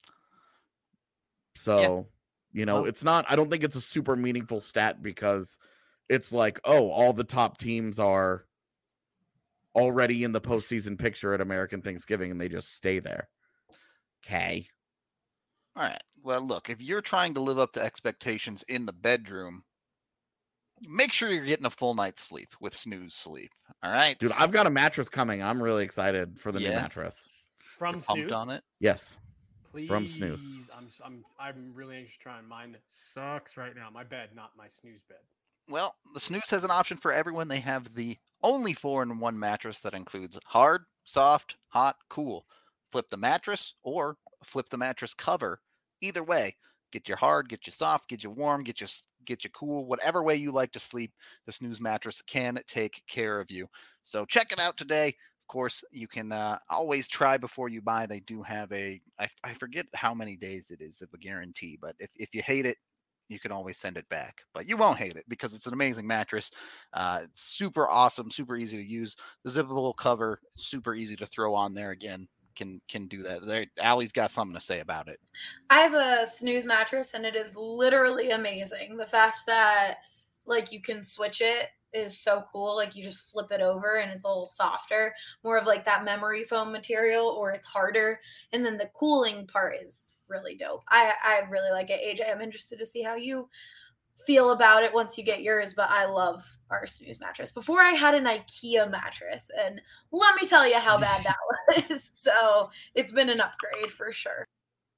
So, yeah. you know, Well, it's not, I don't think it's a super meaningful stat because it's like, oh, all the top teams are already in the postseason picture at American Thanksgiving and they just stay there. Okay. All right. Well, look, if you're trying to live up to expectations in the bedroom, make sure you're getting a full night's sleep with Snooze Sleep. All right. Dude, I've got a mattress coming. I'm really excited for the new Yeah. mattress. From You're pumped Snooze, on it. Yes. please. from Snooze. I'm I'm I'm really anxious to try, and mine sucks right now. My bed, not my Snooze bed. Well, the Snooze has an option for everyone. They have the only four-in-one mattress that includes hard, soft, hot, cool. Flip the mattress or flip the mattress cover. Either way, get you hard, get you soft, get you warm, get you get you cool. Whatever way you like to sleep, the Snooze mattress can take care of you. So check it out today. Of course, you can uh, always try before you buy. They do have a, I, I forget how many days it is of a guarantee, but if, if you hate it, you can always send it back. But you won't hate it because it's an amazing mattress. Uh, it's super awesome, super easy to use. The zippable cover, super easy to throw on there again. Can can do that. There, Allie's got something to say about it. I have a Snooze mattress, and it is literally amazing. The fact that like you can switch it is so cool. Like you just flip it over, and it's a little softer, more of like that memory foam material, or it's harder. And then the cooling part is really dope. I I really like it. A J, I'm interested to see how you feel about it once you get yours, but I love our Snooze mattress. Before I had an IKEA mattress, and let me tell you how bad that was. So it's been an upgrade for sure.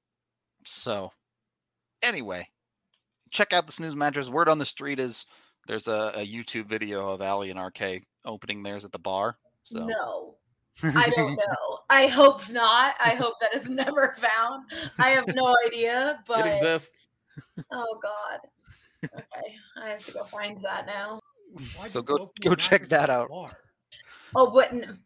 So anyway, check out the Snooze mattress. Word on the street is there's a, a YouTube video of Allie and R K opening theirs at the bar. So No, I don't know. I hope not. I hope that is never found. I have no idea, but It exists. oh God. Okay, I have to go find that now. Why'd So you go- open go your check mattress that at the out. bar? Oh, but n-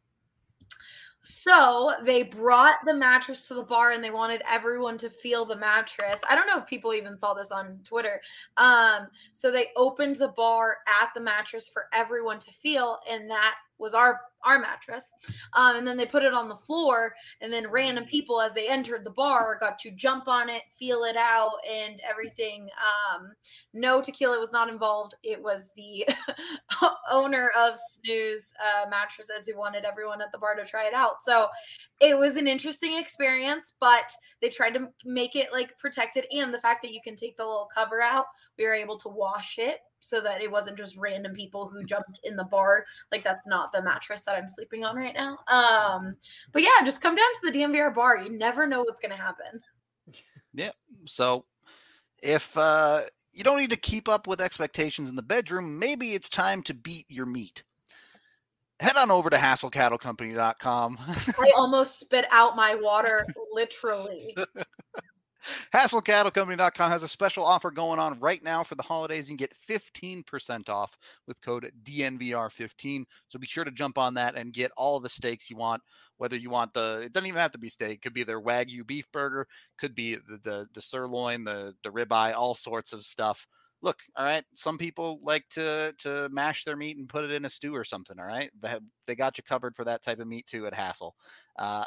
so they brought the mattress to the bar and they wanted everyone to feel the mattress. I don't know if people even saw this on Twitter. Um, so they opened the bar at the mattress for everyone to feel, and that was our our mattress. Um, and then they put it on the floor, and then random people as they entered the bar got to jump on it, feel it out, and everything. Um, no tequila was not involved. It was the owner of Snooze uh, mattresses who wanted everyone at the bar to try it out. So it was an interesting experience, but they tried to make it like protected, and the fact that you can take the little cover out, we were able to wash it so that it wasn't just random people who jumped in the bar. Like, that's not the mattress that I'm sleeping on right now. Um, but yeah, just come down to the D N V R bar. You never know what's going to happen. Yeah. So if uh, you don't need to keep up with expectations in the bedroom, maybe it's time to beat your meat. Head on over to hassle cattle company dot com. I almost spit out my water, literally. hassle cattle company dot com has a special offer going on right now for the holidays. You can get fifteen percent off with code D N V R fifteen. So be sure to jump on that and get all the steaks you want, whether you want the, it doesn't even have to be steak. It could be their Wagyu beef burger, could be the, the, the sirloin, the, the ribeye, all sorts of stuff. Look, all right, some people like to to mash their meat and put it in a stew or something, all right? They, have, they got you covered for that type of meat too at Hassle. Uh,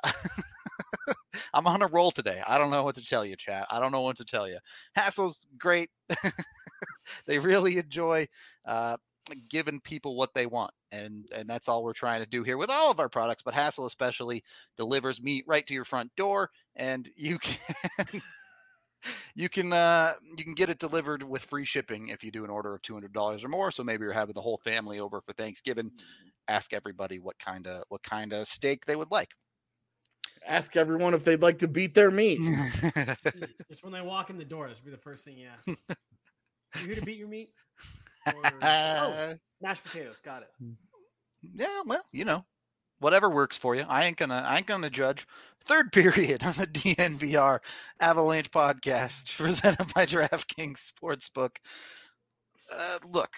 I'm on a roll today. I don't know what to tell you, chat. I don't know what to tell you. Hassle's great. They really enjoy uh, giving people what they want, and, and that's all we're trying to do here with all of our products, but Hassle especially delivers meat right to your front door, and you can... You can uh, you can get it delivered with free shipping if you do an order of two hundred dollars or more. So maybe you're having the whole family over for Thanksgiving. Ask everybody what kind of what kind of steak they would like. Ask everyone if they'd like to beat their meat. Just when they walk in the door, that should be the first thing you ask. You here to beat your meat? Or, oh, mashed potatoes. Got it. Yeah, well, you know. Whatever works for you. I ain't gonna I ain't gonna judge. Third period on the D N V R Avalanche podcast presented by DraftKings Sportsbook. Uh, look,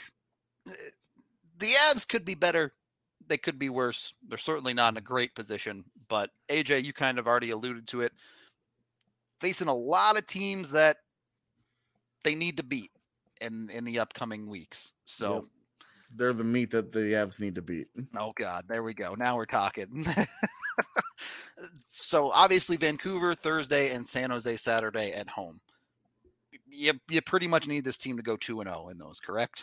the Avs could be better. They could be worse. They're certainly not in a great position. But A J, you kind of already alluded to it. Facing a lot of teams that they need to beat in, in the upcoming weeks. So. Yep. They're the meat that the Avs need to beat. Oh, God. There we go. Now we're talking. So, obviously, Vancouver Thursday and San Jose Saturday at home. You, you pretty much need this team to go two and oh in those, correct?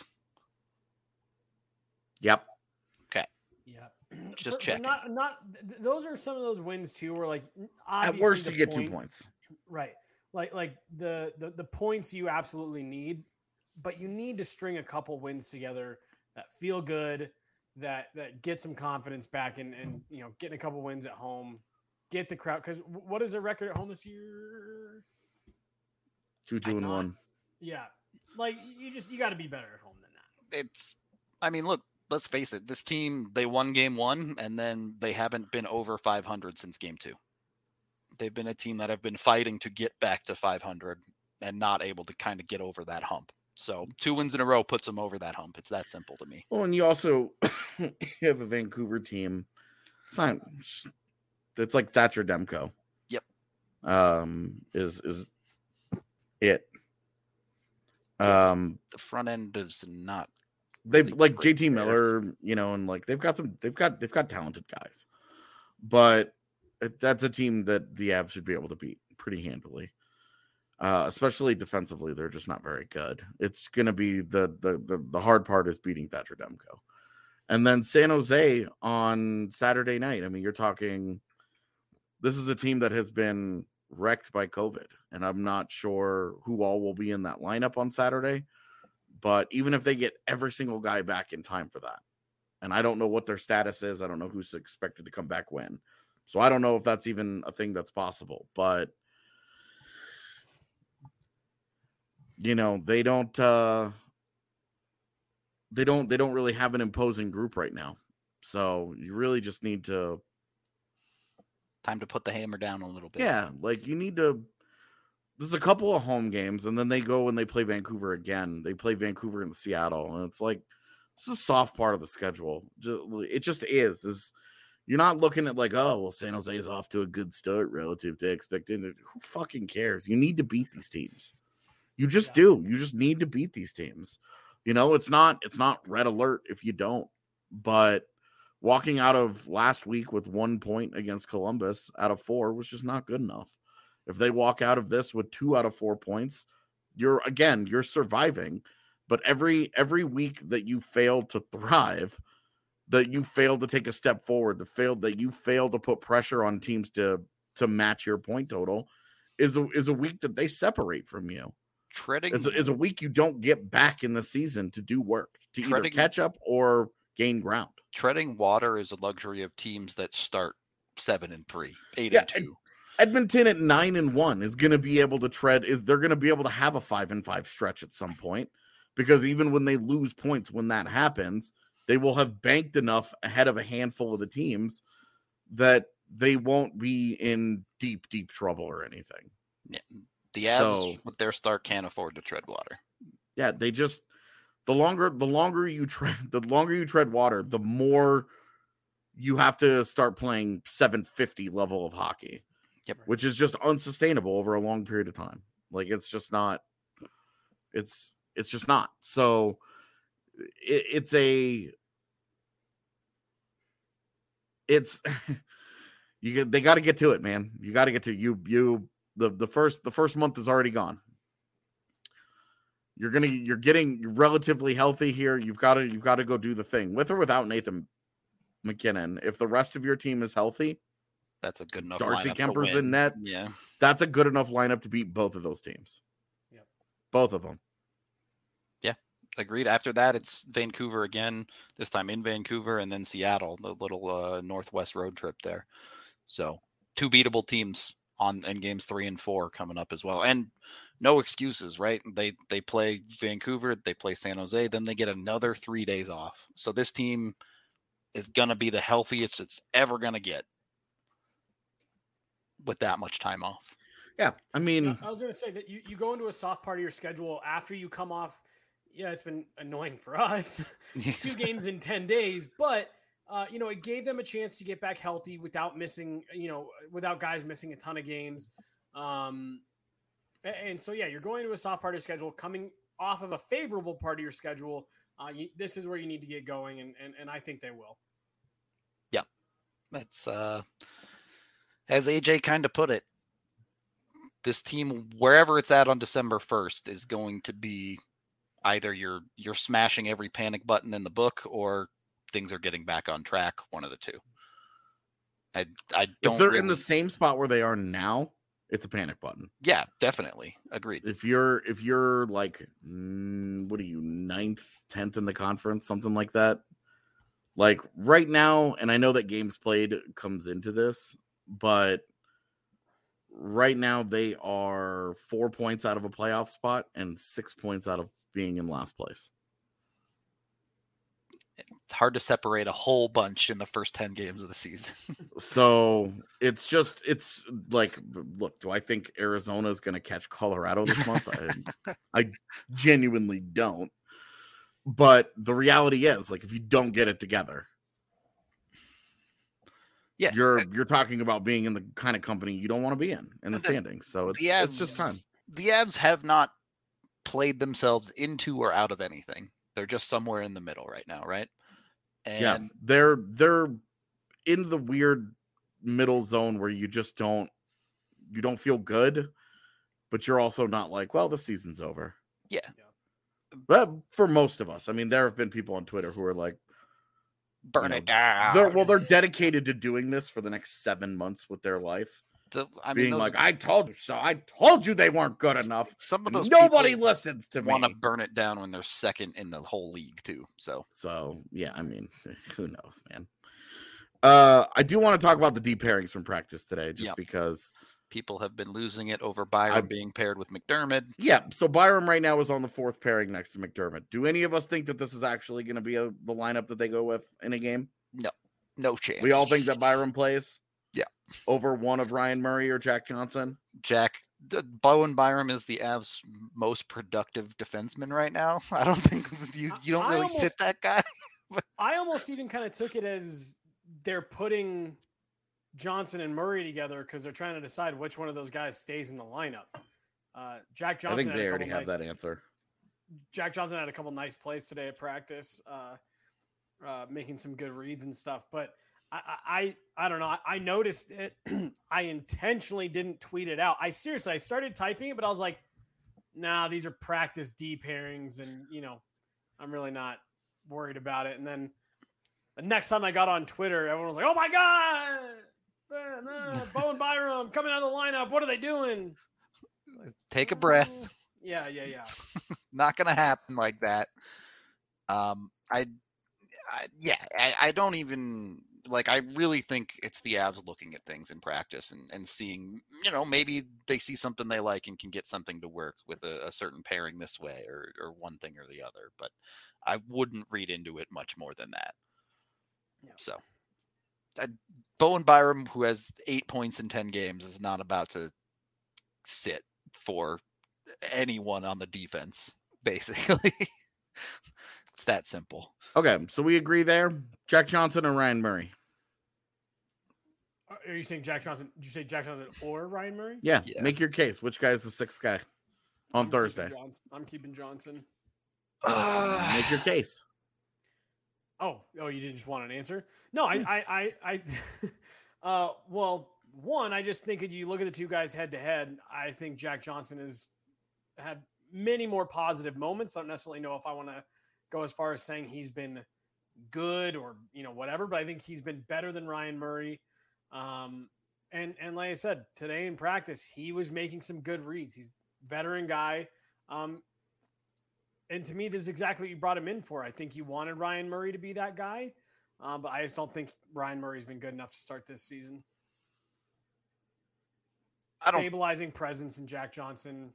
Yep. Okay. Yeah. Just For, checking. Not, not, th- those are some of those wins, too, where, like, At worst, the you get points, two points. Right. Like, like the, the, the points you absolutely need, but you need to string a couple wins together that feel good, that that get some confidence back, and and you know, getting a couple wins at home, get the crowd. Because what is their record at home this year? Two, two, and one. Yeah, like you just you got to be better at home than that. It's, I mean, look, let's face it. This team, they won game one, and then they haven't been over five hundred since game two. They've been a team that have been fighting to get back to five hundred and not able to kind of get over that hump. So two wins in a row puts them over that hump. It's that simple to me. Well, and you also you have a Vancouver team. It's not. It's like Thatcher Demko. Yep. Um, is is it? Um, the front end is not. They really like J T there. Miller, you know, and like they've got some. They've got they've got talented guys, but it, that's a team that the Avs should be able to beat pretty handily. Uh, especially defensively, they're just not very good. It's going to be the, the the the hard part is beating Thatcher Demko. And then San Jose on Saturday night. I mean, you're talking, this is a team that has been wrecked by COVID, and I'm not sure who all will be in that lineup on Saturday. But even if they get every single guy back in time for that, and I don't know what their status is, I don't know who's expected to come back when. So I don't know if that's even a thing that's possible, but you know, they don't uh they don't they don't really have an imposing group right now. So you really just need to Time to put the hammer down a little bit. Yeah, like you need to there's a couple of home games, and then they go and they play Vancouver again. They play Vancouver and Seattle, and it's like it's a soft part of the schedule. It just is. Is you're not looking at like, oh, well, San Jose is off to a good start relative to expected. Who fucking cares? You need to beat these teams. You just Yeah. do. You just need to beat these teams. You know, it's not it's not red alert if you don't. But walking out of last week with one point against Columbus out of four was just not good enough. If they walk out of this with two out of four points, you're again, you're surviving. But every every week that you fail to thrive, that you fail to take a step forward, that failed that you fail to put pressure on teams to to match your point total, is a is a week that they separate from you. Treading is a, is a week you don't get back in the season to do work, to treading, either catch up or gain ground. Treading water is a luxury of teams that start seven and three, eight yeah, and two. Edmonton at nine and one is going to be able to tread. Is they're going to be able to have a five and five stretch at some point, because even when they lose points, when that happens, they will have banked enough ahead of a handful of the teams that they won't be in deep, deep trouble or anything. Yeah. The Avs So- with their start can't afford to tread water. Yeah, they just the longer the longer you tread the longer you tread water, the more you have to start playing seven fifty level of hockey. Yep. Which is just unsustainable over a long period of time. Like it's just not it's it's just not. So it, it's a it's you get they got to get to it, man. You got to get to you you the the first the first month is already gone. You're gonna you're getting relatively healthy here. You've got to you've got to go do the thing with or without Nathan McKinnon. If the rest of your team is healthy, That's a good enough Darcy lineup to Kemper's win. in net. Yeah. That's a good enough lineup to beat both of those teams. Yep. Both of them. Agreed. After that, it's Vancouver again, this time in Vancouver, and then Seattle, the little uh, Northwest road trip there. So two beatable teams on in games three and four coming up as well. And no excuses, right? They they play Vancouver, they play San Jose, then they get another three days off. So this team is going to be the healthiest it's ever going to get with that much time off. Yeah. I mean, I was going to say that you, you go into a soft part of your schedule after you come off. Yeah, it's been annoying for us. Two games in ten days, but uh, you know, it gave them a chance to get back healthy without missing, you know, without guys missing a ton of games. Um, and so, yeah, you're going to a soft part of your schedule, coming off of a favorable part of your schedule. Uh, you, this is where you need to get going, and and, and I think they will. Yeah, that's uh, as A J kind of put it. This team, wherever it's at on December first, is going to be either you're you're smashing every panic button in the book, or things are getting back on track. One of the two. I I don't. if they're really, in the same spot where they are now, it's a panic button. Yeah, definitely agreed. If you're if you're like mm, what are you ninth, tenth in the conference, something like that. Like right now, and I know that games played comes into this, but right now they are four points out of a playoff spot and six points out of being in last place. It's hard to separate a whole bunch in the first ten games of the season. So it's just it's like, look, do I think Arizona is going to catch Colorado this month? I, I genuinely don't. But the reality is, like, if you don't get it together, Yeah, you're you're talking about being in the kind of company you don't want to be in in the The- standings. So it's the it's just Avs- time. The Avs have not played themselves into or out of anything. They're just somewhere in the middle right now, right? And Yeah, they're they're in the weird middle zone where you just don't you don't feel good, but you're also not like, well, the season's over. Yeah. But for most of us, I mean, there have been people on Twitter who are like, burn you it know, down. they're, well, they're dedicated to doing this for the next seven months with their life. The- I mean, being those- like, I told you so. I told you they weren't good enough. some of And those nobody people listens to want to me. burn it down when they're second in the whole league too. So So yeah, I mean, who knows, man. Uh, I do want to talk about the deep pairings from practice today, just Yep. because. people have been losing it over Byron I'm- being paired with McDermott. Yeah, so Byram right now is on the fourth pairing next to McDermott. Do any of us think that this is actually going to be a, the lineup that they go with in a game? No chance. We all think that Byram plays. Yeah. Over one of Ryan Murray or Jack Johnson. Jack D- Bowen Byram is the Avs' most productive defenseman right now. I don't think you you don't I really almost- fit that guy. I almost even kind of took it as they're putting Johnson and Murray together because they're trying to decide which one of those guys stays in the lineup. Uh, Jack Johnson. I think had they a already couple have nice, that answer. Jack Johnson had a couple nice plays today at practice. Uh, uh, making some good reads and stuff. But I, I, I don't know. I, I noticed it. I intentionally didn't tweet it out. I seriously, I started typing it, but I was like, nah, these are practice D pairings. And, you know, I'm really not worried about it. And then the next time I got on Twitter, everyone was like, oh my God, uh, no, Bo and Byram coming out of the lineup. What are they doing? Take a breath. Yeah, yeah, yeah. Not going to happen like that. Um, I, I yeah, I, I don't even like. I really think it's the Avs looking at things in practice and, and seeing, you know, maybe they see something they like and can get something to work with a, a certain pairing this way or or one thing or the other. But I wouldn't read into it much more than that. Yeah. So, I, Bowen Byram, who has eight points in ten games, is not about to sit for anyone on the defense. Basically, it's that simple. Okay, so we agree there. Jack Johnson and Ryan Murray. Are you saying Jack Johnson? Did you say Jack Johnson or Ryan Murray? Yeah, Yeah. make your case. Which guy is the sixth guy on I'm Thursday? Keeping Johnson. I'm keeping Johnson. Uh, Make your case. Oh, oh, you didn't just want an answer? No, I, I, I, I uh, well, one, I just think if you look at the two guys head to head, I think Jack Johnson has had many more positive moments. I don't necessarily know if I want to go as far as saying he's been good or, you know, whatever, but I think he's been better than Ryan Murray. Um, and, and like I said, today in practice, he was making some good reads. He's a veteran guy. Um, and to me, this is exactly what you brought him in for. I think you wanted Ryan Murray to be that guy, um, but I just don't think Ryan Murray's been good enough to start this season. I don't- Stabilizing presence in Jack Johnson.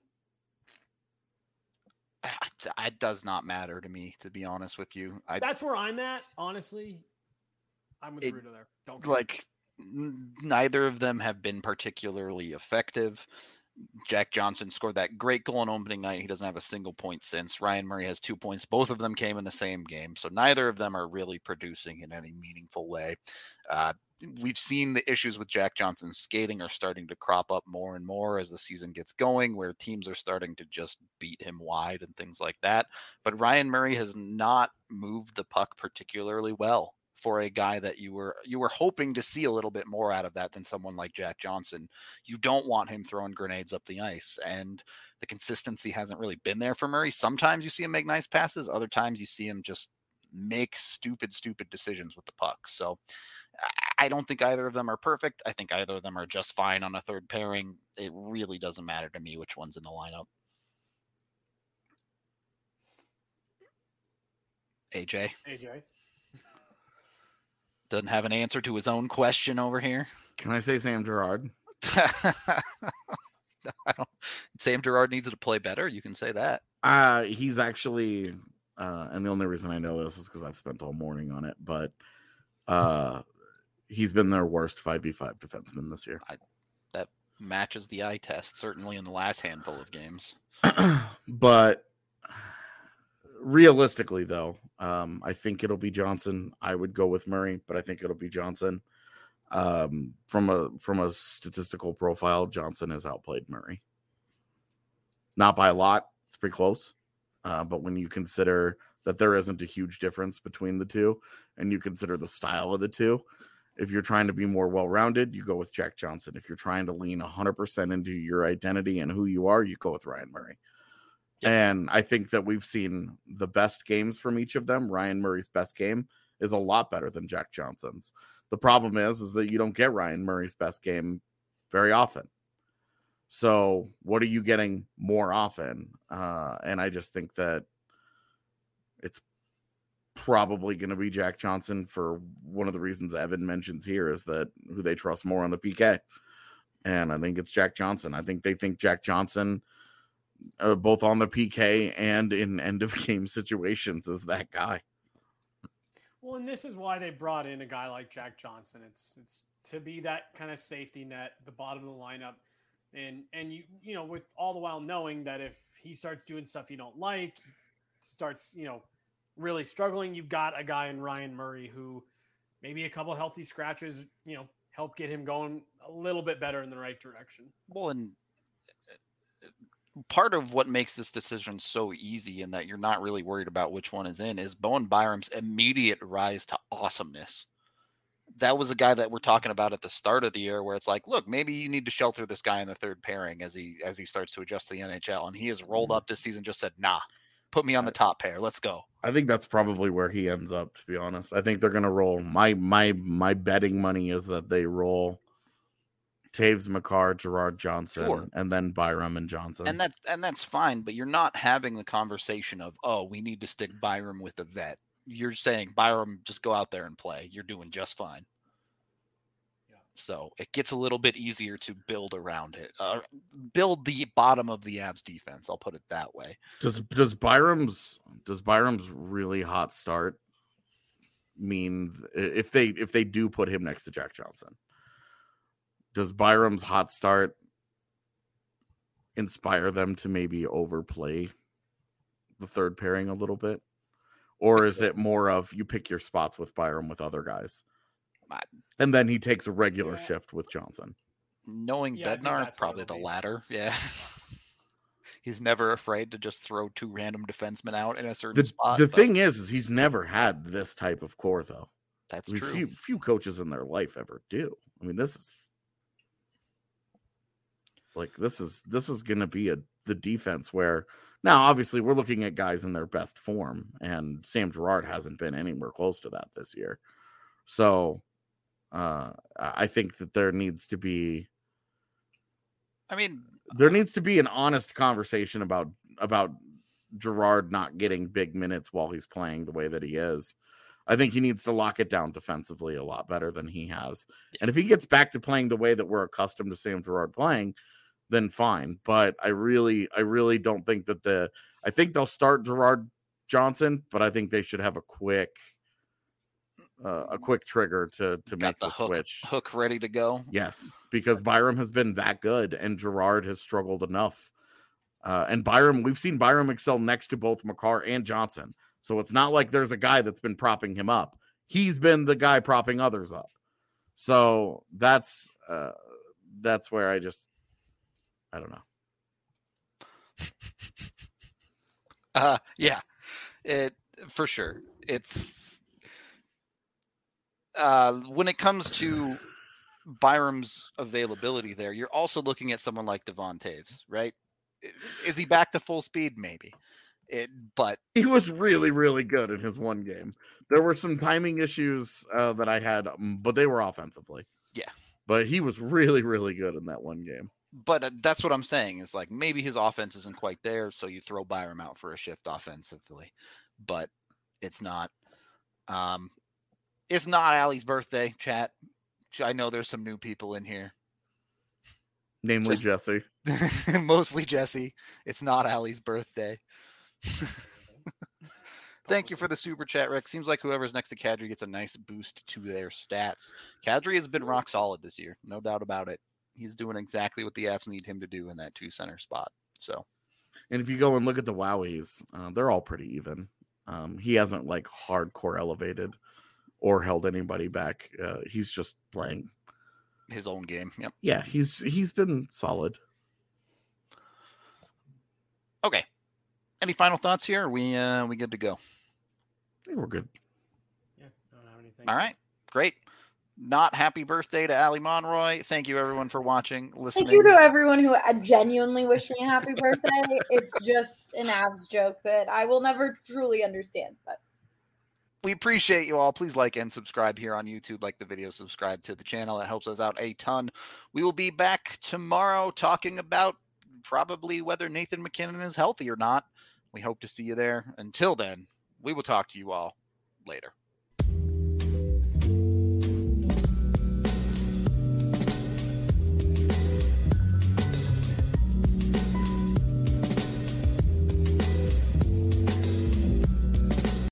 It does not matter to me, to be honest with you. I That's where I'm at, honestly. I'm with It- Rudo there. Don't care. like n- neither of them have been particularly effective. Jack Johnson scored that great goal on opening night. He doesn't have a single point since. Ryan Murray has two points. Both of them came in the same game. So neither of them are really producing in any meaningful way. Uh, we've seen the issues with Jack Johnson's skating are starting to crop up more and more as the season gets going, where teams are starting to just beat him wide and things like that. But Ryan Murray has not moved the puck particularly well for a guy that you were you were hoping to see a little bit more out of that than someone like Jack Johnson. You don't want him throwing grenades up the ice, and the consistency hasn't really been there for Murray. Sometimes you see him make nice passes, other times you see him just make stupid, stupid decisions with the puck. So I don't think either of them are perfect. I think either of them are just fine on a third pairing. It really doesn't matter to me which one's in the lineup. A J? A J. Doesn't have an answer to his own question over here. Can I say Sam Girard? I don't, Sam Girard needs to play better. You can say that. Uh, he's actually, uh, and the only reason I know this is because I've spent all morning on it, but uh, he's been their worst five v five defenseman this year. That matches the eye test, certainly in the last handful of games. But realistically, though, um, I think it'll be Johnson. I would go with Murray, but I think it'll be Johnson. Um, from a from a statistical profile, Johnson has outplayed Murray. Not by a lot. It's pretty close. Uh, but when you consider that there isn't a huge difference between the two, and you consider the style of the two, if you're trying to be more well-rounded, you go with Jack Johnson. If you're trying to lean one hundred percent into your identity and who you are, you go with Ryan Murray. Yep. And I think that we've seen the best games from each of them. Ryan Murray's best game is a lot better than Jack Johnson's. The problem is, is that you don't get Ryan Murray's best game very often. So what are you getting more often? Uh, and I just think that it's probably going to be Jack Johnson for one of the reasons Evan mentions here is that who they trust more on the P K. And I think it's Jack Johnson. I think they think Jack Johnson, uh, both on the P K and in end of game situations, is that guy. Well, and this is why they brought in a guy like Jack Johnson. It's it's to be that kind of safety net, the bottom of the lineup. And and you you know, with all the while knowing that if he starts doing stuff you don't like, starts, you know, really struggling, you've got a guy in Ryan Murray who maybe a couple healthy scratches, you know, help get him going a little bit better in the right direction. Well, and part of what makes this decision so easy and that you're not really worried about which one is in is Bowen Byram's immediate rise to awesomeness. That was a guy that we're talking about at the start of the year where it's like, look, maybe you need to shelter this guy in the third pairing as he as he starts to adjust to the N H L. And he has rolled up this season, just said, nah, put me on the top pair. Let's go. I think that's probably where he ends up, to be honest. I think they're gonna roll. My my my betting money is that they roll Taves, Makar, Gerard Johnson, Sure. and then Byram and Johnson. And that's and that's fine, but you're not having the conversation of, oh, we need to stick Byram with the vet. You're saying, Byram, just go out there and play. You're doing just fine. Yeah. So it gets a little bit easier to build around it. Uh, build the bottom of the Avs defense. I'll put it that way. Does does Byram's does Byram's really hot start mean if they if they do put him next to Jack Johnson? Does Byram's hot start inspire them to maybe overplay the third pairing a little bit? Or is it more of you pick your spots with Byram with other guys? And then he takes a regular Yeah. shift with Johnson. Knowing Yeah, I think Bednar, that's what probably it'll the be. latter. Yeah. He's never afraid to just throw two random defensemen out in a certain The, spot. the but thing is, is he's never had this type of core, though. that's I mean, true. few few coaches in their life ever do. I mean, this is like this is this is going to be a the defense where now obviously we're looking at guys in their best form, and Sam Girard hasn't been anywhere close to that this year. So uh, I think that there needs to be I mean, there needs to be an honest conversation about about Girard not getting big minutes while he's playing the way that he is. I think he needs to lock it down defensively a lot better than he has. And if he gets back to playing the way that we're accustomed to Sam Girard playing, then fine. But I really, I really don't think that the, I think they'll start Gerard Johnson, but I think they should have a quick, uh, a quick trigger to, to got make the the hook, switch. hook ready to go. Yes, because Byram has been that good and Gerard has struggled enough. Uh, and Byram, we've seen Byram excel next to both Makar and Johnson. So it's not like there's a guy that's been propping him up. He's been the guy propping others up. So that's uh, that's where I just, I don't know. Uh, yeah, it for sure. It's uh, when it comes to Byram's availability there, you're also looking at someone like Devon Taves, right? Is he back to full speed? Maybe. It, but He was really, really good in his one game. There were some timing issues uh, that I had, um, but they were offensively. Yeah. But he was really, really good in that one game. but uh, that's what I'm saying is like maybe his offense isn't quite there, so you throw Byram out for a shift offensively, but it's not. Um, it's not Allie's birthday, chat. I know there's some new people in here. Namely Just- Jesse. Mostly Jesse. It's not Allie's birthday. Thank you for the super chat, Rick. Seems like whoever's next to Kadri gets a nice boost to their stats. Kadri has been rock solid this year, no doubt about it. He's doing exactly what the Avs need him to do in that two center spot. So, And if you go and look at the Wowies, uh, they're all pretty even. Um, he hasn't like hardcore elevated or held anybody back. Uh, he's just playing. his own game. Yep. Yeah, he's he's been solid. Okay. Any final thoughts here? Are we uh we good to go? I think we're good. Yeah, I don't have anything. All right. Great. Not happy birthday to Ali Monroy. Thank you everyone for watching, listening. Thank you to everyone who uh, genuinely wished me a happy birthday. It's just an Avs joke that I will never truly understand. But We appreciate you all. Please like and subscribe here on YouTube. Like the video, subscribe to the channel. That helps us out a ton. We will be back tomorrow talking about probably whether Nathan McKinnon is healthy or not. We hope to see you there. Until then, we will talk to you all later.